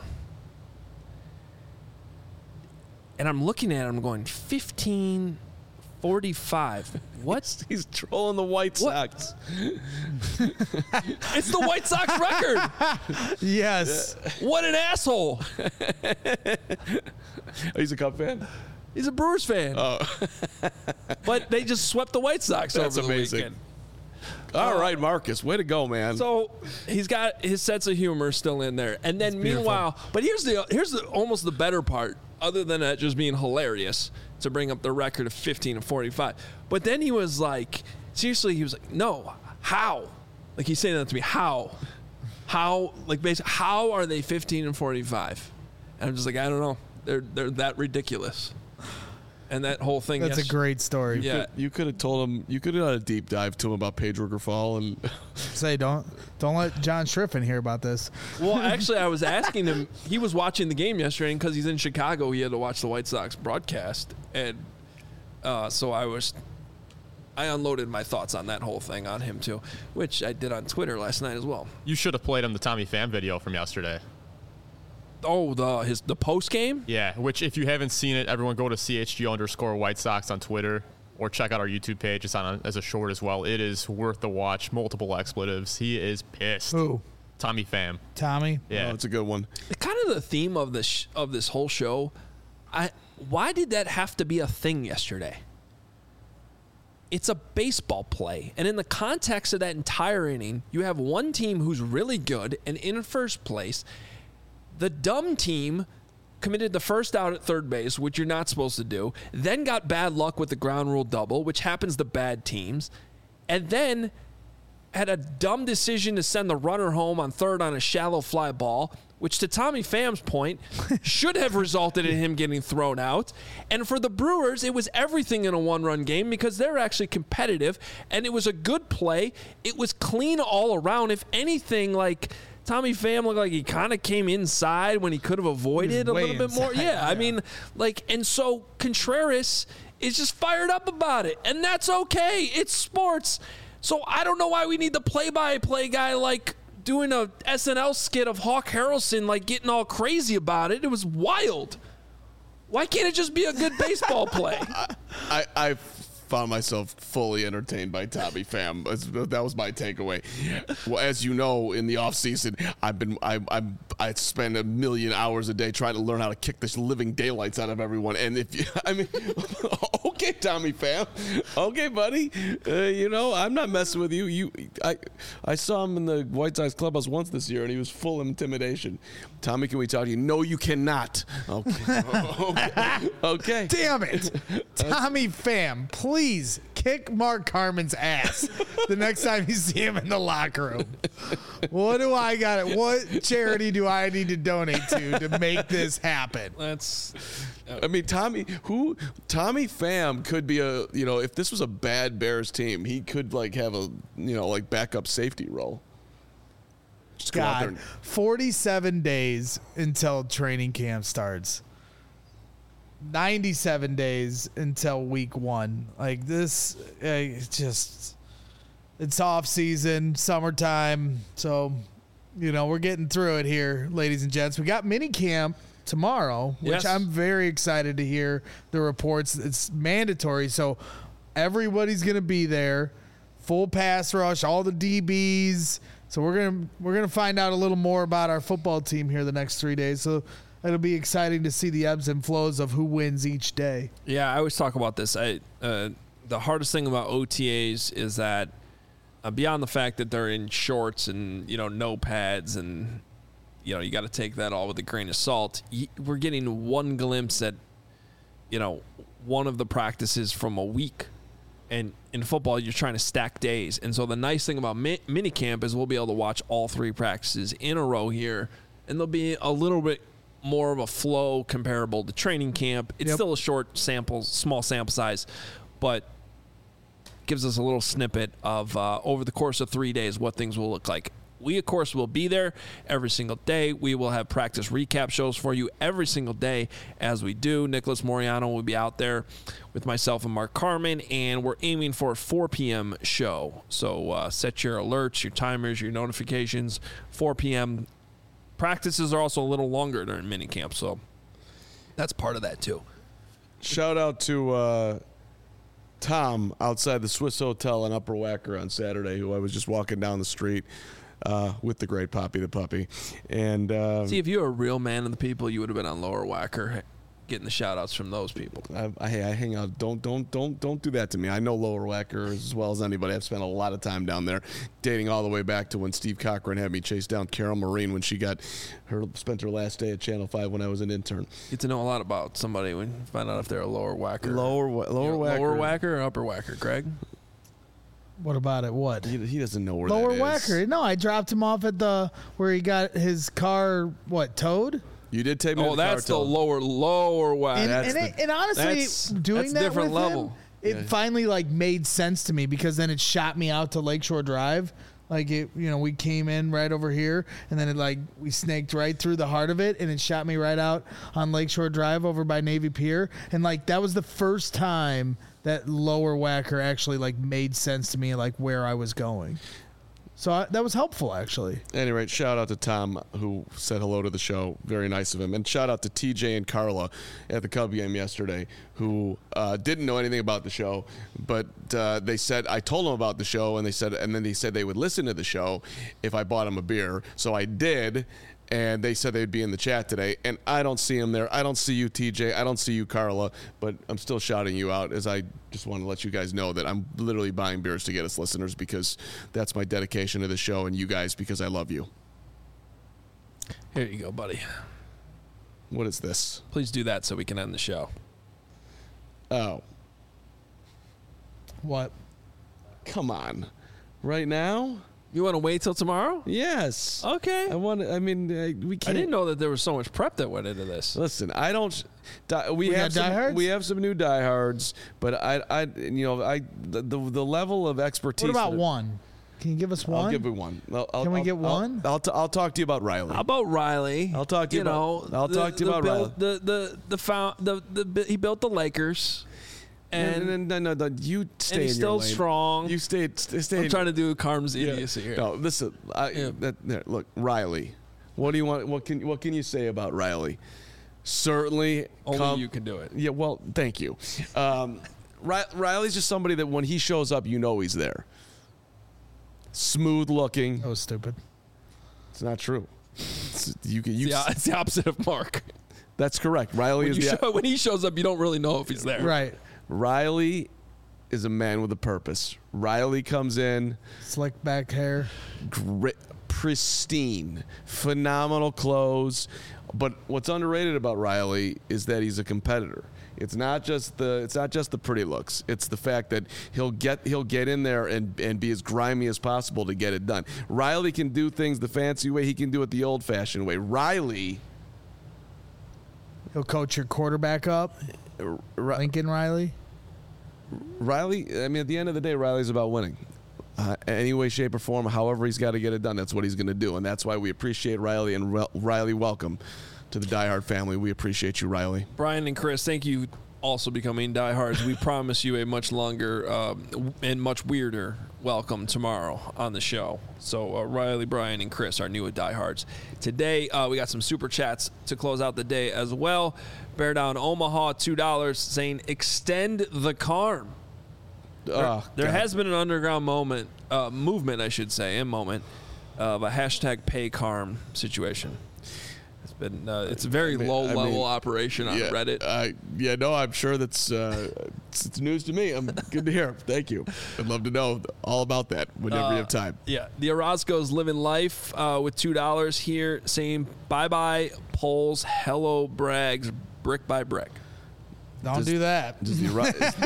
And I'm looking at it, I'm going, fifteen forty-five. What? He's trolling the White What? Sox. It's the White Sox record. Yes. What an asshole. He's a Cub fan. He's a Brewers fan. Oh, But they just swept the White Sox That's over the amazing. weekend. all right, Marcus. Way to go, man. So he's got his sense of humor still in there. And then meanwhile, but here's the here's the almost the better part, other than that just being hilarious to bring up the record of fifteen and forty-five. But then he was like, seriously, he was like, no, how? Like he's saying that to me, how? How like basically how are they fifteen and forty-five? And I'm just like, I don't know. They're they're that ridiculous. And that whole thing That's a yes- great story. Yeah. You could have told him. You could have done a deep dive to him about Pedro Grifol and Say don't don't let John Schriffen hear about this. Well, actually, I was asking him. He was watching the game yesterday, and because he's in Chicago, he had to watch the White Sox broadcast, and uh, so I was, I unloaded my thoughts on that whole thing on him too, which I did on Twitter last night as well. You should have played him the Tommy Pham video from yesterday. Oh, the his the post game. Yeah, which if you haven't seen it, everyone go to C H G underscore White Sox on Twitter or check out our YouTube page. It's on as a short as well. It is worth the watch. Multiple expletives. He is pissed. Who? Tommy Pham. Tommy? Yeah. oh, it's a good one. Kind of the theme of this of this whole show. I why did that have to be a thing yesterday? It's a baseball play, and in the context of that entire inning, you have one team who's really good and in first place. The dumb team committed the first out at third base, which you're not supposed to do, then got bad luck with the ground rule double, which happens to bad teams, and then had a dumb decision to send the runner home on third on a shallow fly ball, which to Tommy Pham's point should have resulted in him getting thrown out. And for the Brewers, it was everything in a one-run game because they're actually competitive, and it was a good play. It was clean all around. If anything, like Tommy Pham looked like he kind of came inside when he could have avoided a way little bit more. inside, Yeah, I yeah. mean, like, and so Contreras is just fired up about it, and that's okay. It's sports. So I don't know why we need the play-by-play guy like doing a S N L skit of Hawk Harrelson like getting all crazy about it. It was wild. Why can't it just be a good baseball play? I, I found myself fully entertained by Tommy Pham. That was my takeaway. Well, as you know, in the offseason, I've been I I I spend a million hours a day trying to learn how to kick the living daylights out of everyone. And if you, I mean, Okay, Tommy Pham. Okay, buddy. Uh, you know, I'm not messing with you. You, I, I saw him in the White Sox clubhouse once this year, and he was full of intimidation. Tommy, can we talk to you? No, you cannot. Okay. okay. okay. Damn it. Tommy Pham, please kick Mark Carmen's ass the next time you see him in the locker room. What do I got? What charity do I need to donate to to make this happen? That's. Uh, I mean, Tommy, who Tommy Pham could be a, you know, if this was a bad Bears team, he could like have a, you know, like backup safety role. Just go out there God, and, forty-seven days until training camp starts. ninety-seven days until week one. Like this, uh, it's just, it's off season, summertime. So, you know, we're getting through it here, ladies and gents. We got mini camp tomorrow, which Yes. I'm very excited to hear the reports. It's mandatory. So everybody's going to be there. Full pass rush, all the D Bs. So we're gonna we're gonna find out a little more about our football team here the next three days. So it'll be exciting to see the ebbs and flows of who wins each day. Yeah, I always talk about this. I uh, the hardest thing about O T As is that uh, beyond the fact that they're in shorts and, you know, no pads, and you know, you got to take that all with a grain of salt. Y- We're getting one glimpse at, you know, one of the practices from a week. And in football, you're trying to stack days. And so the nice thing about mi- minicamp is we'll be able to watch all three practices in a row here. And there'll be a little bit more of a flow comparable to training camp. It's Yep. still a short sample, small sample size, but gives us a little snippet of uh, over the course of three days what things will look like. We, of course, will be there every single day. We will have practice recap shows for you every single day as we do. Nicholas Moriano will be out there with myself and Mark Carmen, and we're aiming for a four p.m. show. So uh, set your alerts, your timers, your notifications, four p.m. Practices are also a little longer during minicamp, so that's part of that too. shout out to uh, Tom outside the Swiss Hotel in Upper Wacker on Saturday, who I was just walking down the street uh, with the great Poppy the puppy. And uh, See, if you were a real man of the people, you would have been on Lower Wacker getting the shout-outs from those people. I, I, I hang out. Don't don't don't don't do that to me. I know Lower Wacker as well as anybody. I've spent a lot of time down there, dating all the way back to when Steve Cochran had me chase down Carol Marine when she got her spent her last day at Channel Five when I was an intern. Get to know a lot about somebody when you find out if they're a Lower Wacker. Lower Wa- Lower You're Wacker. Lower Wacker or Upper Wacker, Greg? What about it? What? He, he doesn't know where Lower that is. Wacker. No, I dropped him off at the where he got his car. What towed? You did take me. Oh, to the that's the car tow. lower, lower Wacker. And, that's and, the- it, and honestly, that's- doing that's that different with level. him, it Yeah. finally like made sense to me because then it shot me out to Lakeshore Drive. Like it, you know, we came in right over here, and then it like we snaked right through the heart of it, and it shot me right out on Lakeshore Drive over by Navy Pier, and like that was the first time that Lower Wacker actually like made sense to me, like where I was going. So I, that was helpful, actually. At any rate, shout out to Tom who said hello to the show. Very nice of him. And shout out to T J and Carla at the Cub game yesterday who uh, didn't know anything about the show, but uh, they said, I told them about the show, and they said, and then they said they would listen to the show if I bought them a beer. So I did. And they said they'd be in the chat today, and I don't see them there. I don't see you, T J. I don't see you, Carla, but I'm still shouting you out as I just want to let you guys know that I'm literally buying beers to get us listeners because that's my dedication to the show and you guys because I love you. Here you go, buddy. What is this? Please do that so we can end the show. Oh, What? come on. Right now? You want to wait till tomorrow? Yes. Okay. I want I mean, uh, we I can't. didn't know that there was so much prep that went into this. Listen, I don't. Die, we, We have got some, diehards? we have some new diehards, but I, I, you know, I the the, the level of expertise. What about that- one? Can you give us one? I'll give you one. I'll, I'll, Can we I'll- get I'll- one? I'll, t- I'll talk to you about Riley. How about Riley? I'll talk to you know, about- I'll talk to you the about build, the the the, found, the the he built the Lakers, and, and no, no, no, no, you stay and in he's your still lane. strong. You stay. Stay. stay I'm in- trying to do Carm's yeah. idiocy here. No, listen. I, Yeah. that, there, look, Riley. What do you want? What can what can you say about Riley? Certainly, Only come- you can do it. Yeah, well, thank you. Um, Ri- Riley's just somebody that when he shows up, you know he's there. Smooth looking. That was stupid. It's not true. It's, you can. You. It's the, it's the opposite of Mark. That's correct. Riley When, is you the. show, when he shows up, you don't really know if he's there. Right. Riley is a man with a purpose. Riley comes in, Slick back hair. gri- pristine, phenomenal clothes. But what's underrated about Riley is that he's a competitor. It's not just the it's not just the pretty looks. It's the fact that he'll get he'll get in there and, and be as grimy as possible to get it done. Riley can do things the fancy way. He can do it the old-fashioned way. Riley, He'll coach your quarterback up. Ri- Lincoln Riley. Riley. I mean, at the end of the day, Riley's about winning. Uh, any way, shape, or form, however he's got to get it done, that's what he's going to do, and that's why we appreciate Riley. And Re- Riley, welcome to the Die Hard family. We appreciate you, Riley. Brian and Chris, thank you also becoming diehards. We promise you a much longer um, and much weirder welcome tomorrow on the show. So uh, Riley, Brian, and Chris are new diehards. Today, uh, we got some super chats to close out the day as well. Bear Down Omaha, two dollars, saying extend the Carm. There, Oh, there God. has been an underground moment, uh, movement, I should say, a moment of a hashtag pay Carm situation. It's been uh, it's a very I mean- low I level mean, operation on yeah, Reddit. Uh, yeah, no, I'm sure that's uh, it's, it's news to me. I'm good to hear. Thank you. I'd love to know all about that whenever you have time. Yeah, the Orozco's living life uh, with two dollars here, saying bye bye polls, hello Brags, brick by brick. Don't Does- do that. Does the, Ro-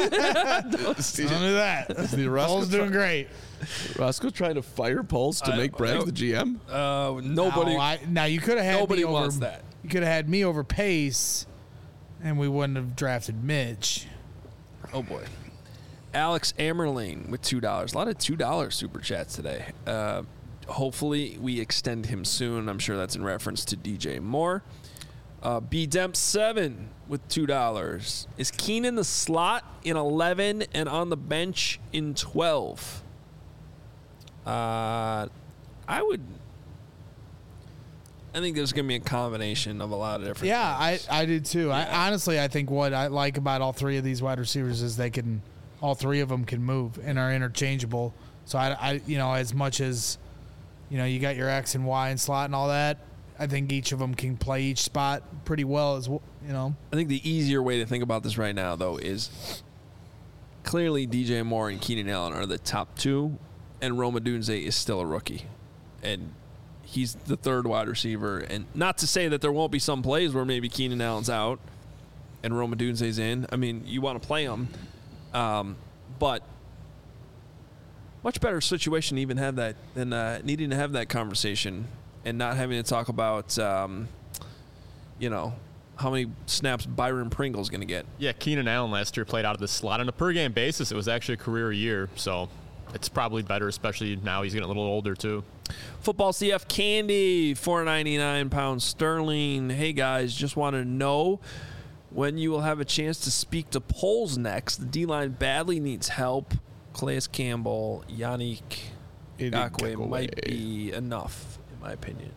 is, Don't do that. is the Roscoe, Paul's doing great. Roscoe trying to fire Poles to I- make Braggs no. the G M? Uh, nobody. No, I, now you could have had Nobody me over, wants that. You could have had me over Pace, and we wouldn't have drafted Mitch. Oh boy. Alex Amerlane with two dollars. A lot of two dollar super chats today. Uh, hopefully we extend him soon. I'm sure that's in reference to D J Moore. Uh, B Demp seven with two dollars. Is Keenan the slot in eleven and on the bench in twelve? Uh, I would. I think there's going to be a combination of a lot of different. Yeah, I, things. I did too. I honestly, I think what I like about all three of these wide receivers is they can, all three of them can move and are interchangeable. So I, I you know, as much as, you know, you got your X and Y and slot and all that, I think each of them can play each spot pretty well as well, you know. I think the easier way to think about this right now, though, is clearly D J Moore and Keenan Allen are the top two, and Rome Odunze is still a rookie. And he's the third wide receiver. And not to say that there won't be some plays where maybe Keenan Allen's out and Rome Odunze's in. I mean, you want to play him. Um, but much better situation to even have that than uh, needing to have that conversation and not having to talk about, um, you know, how many snaps Byron Pringle's going to get. Yeah, Keenan Allen last year played out of the slot on a per game basis. It was actually a career year, so it's probably better, especially now he's getting a little older too. Football C F Candy, four ninety-nine pounds sterling. Hey guys, just want to know when you will have a chance to speak to Poles next. The D-line badly needs help. Calais Campbell, Yannick Ngakoue Ngakoue. might be enough, in my opinion.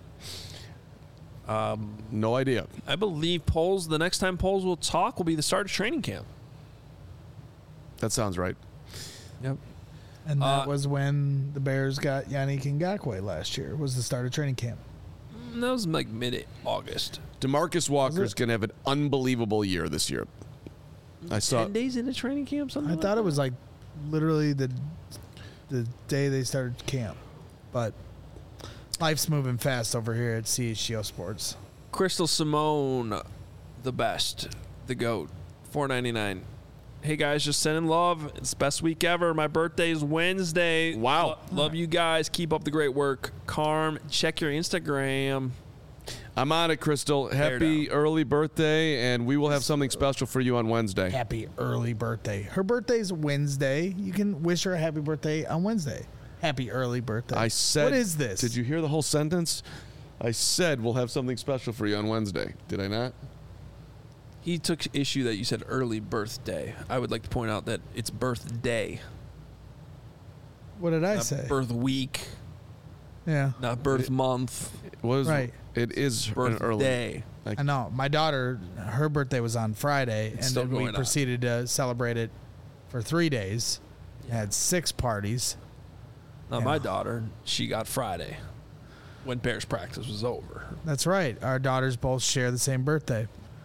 No idea. I believe Poles, the next time Poles will talk will be the start of training camp. That sounds right. Yep. And that Uh, was when the Bears got Yannick Ngakoue last year. Was the start of training camp. That was like mid-August. DeMarcus Walker's it? going to have an unbelievable year this year. I saw Ten days into training camp, something I like thought that? it was like literally the the day they started camp, but life's moving fast over here at C H G O Sports. Crystal Simone, the best, the GOAT, four ninety-nine. Hey guys, just sending love. It's the best week ever. My birthday's Wednesday. Wow. Lo- love you guys. Keep up the great work. Carm, check your Instagram. I'm on it, Crystal. Happy down. early birthday, and we will have something special for you on Wednesday. Happy early birthday. Her birthday's Wednesday. You can wish her a happy birthday on Wednesday. Happy early birthday. I said. What is this? Did you hear the whole sentence? I said we'll have something special for you on Wednesday. Did I not? He took issue that you said early birthday. I would like to point out that it's birthday, What did I not say? birth week, Yeah. not birth month, It was Right. It is an early. birthday. I know. My daughter, her birthday was on Friday, It's and still then we going on. proceeded to celebrate it for three days. Had six parties. Now Yeah. my daughter, she got Friday when Bears practice was over. That's right. Our daughters both share the same birthday.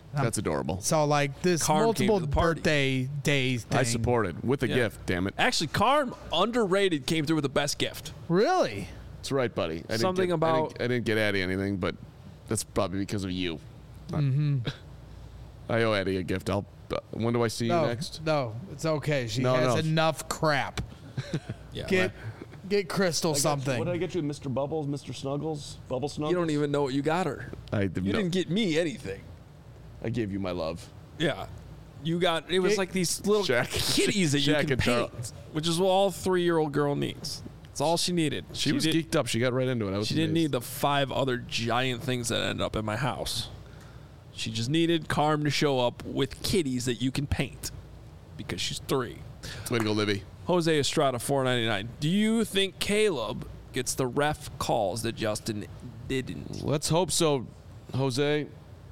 That's adorable. So like this Carm came multiple to the party. birthday day thing. I support it with a Yeah. gift. Damn it. Actually, Carm, underrated, came through with the best gift. Really? That's right, buddy. I didn't Something get, about- I didn't, I didn't get Addie anything, but that's probably because of you. Mm-hmm. I owe Addie a gift. I'll. Uh, when do I see No, you next? no, it's okay. She No, has no. enough crap. Yeah, Get get Crystal something. What did I get you, Mister Bubbles, Mister Snuggles, Bubble Snuggles? you don't even know what you got her. I did You no, didn't get me anything. I gave you my love. Yeah. You got, it was Get- like these little Shaq- kitties that you Shaq can and Charles. paint, which is what all three-year-old girl needs. It's all she needed. She, was did, geeked up. She got right into it. I was She didn't need amazed. the five other giant things that ended up in my house. She just needed Carm to show up with kitties that you can paint because she's three. Way to go, Libby. Jose Estrada, four ninety-nine. Do you think Caleb gets the ref calls that Justin didn't? Let's hope so, Jose.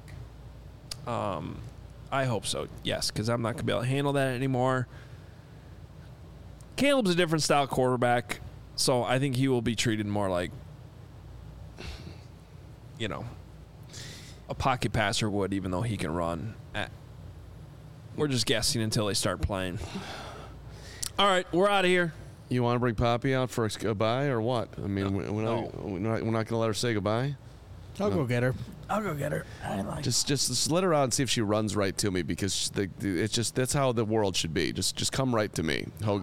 I hope so, yes, because I'm not going to be able to handle that anymore. Caleb's a different style quarterback, so I think he will be treated more like, you know, a pocket passer would, even though he can run. Eh. We're just guessing until they start playing. All right, we're out of here. You want to bring Poppy out for a goodbye or what? I mean, No. we're not, we're not, we're not going to let her say goodbye. I'll go get her. I'll go get her. I like. Just, just, just let her out and see if she runs right to me because the, the, it's just that's how the world should be. Just, just come right to me. Ho-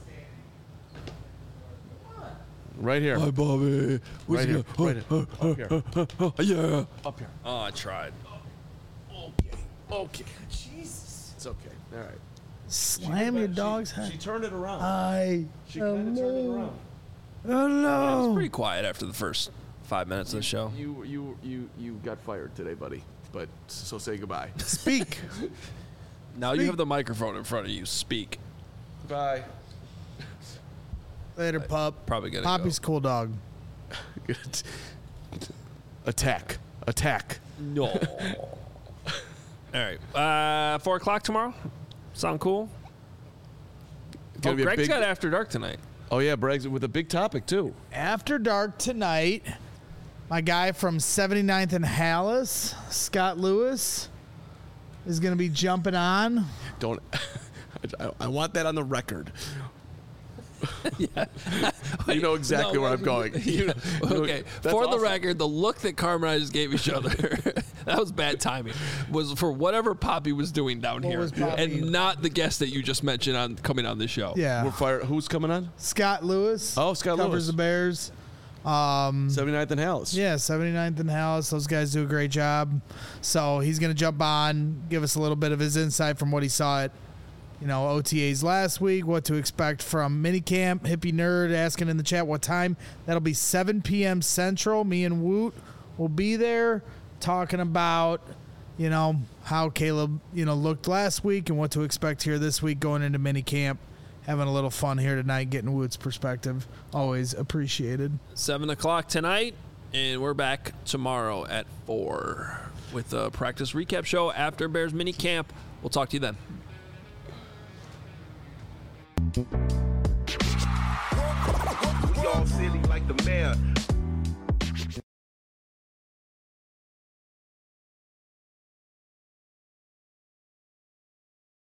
right here. Hi, Bobby. Right here. Right here. Up here. Yeah. Up here. Oh, I tried. Okay. Okay. Jesus. It's okay. All right. Slam your dog's She head. turned it around. I. She kind of turned it around. Oh It no. was pretty quiet after the first five minutes of the show. You, you, you, you got fired today, buddy. But so say goodbye. Speak. Now you have the microphone in front of you. Speak. Bye. Later, pup. Probably gonna Poppy's cool dog. Good. Attack. Attack. No. All right. Uh, four o'clock tomorrow. Sound cool? Gonna Oh, be a Greg's big- got After Dark tonight. Oh yeah, Braggs with a big topic too. After dark tonight, my guy from seventy-ninth and Hallis, Scott Lewis, is going to be jumping on. Don't. I, I want that on the record. You know exactly No, where I'm going. You know- you know- Okay, that's for the awesome. record, the look that Carmen and I just gave each other, that was bad timing, was for whatever Poppy was doing down What here, was Poppy? and not the guest that you just mentioned on coming on the show. Yeah. We're fire. Who's coming on? Scott Lewis. Oh, Scott covers Lewis. the Bears. Um, seventy-ninth and Hallis. Yeah, seventy-ninth and Hallis. Those guys do a great job. So he's going to jump on, give us a little bit of his insight from what he saw at, you know, O T As last week, what to expect from minicamp. Hippie Nerd asking in the chat what time. That'll be seven p.m. Central. Me and Woot will be there talking about, you know, how Caleb, you know, looked last week and what to expect here this week going into minicamp. Having a little fun here tonight, getting Woot's perspective. Always appreciated. Seven o'clock tonight, and we're back tomorrow at four with a practice recap show after Bears mini camp. We'll talk to you then. We all silly like the mayor.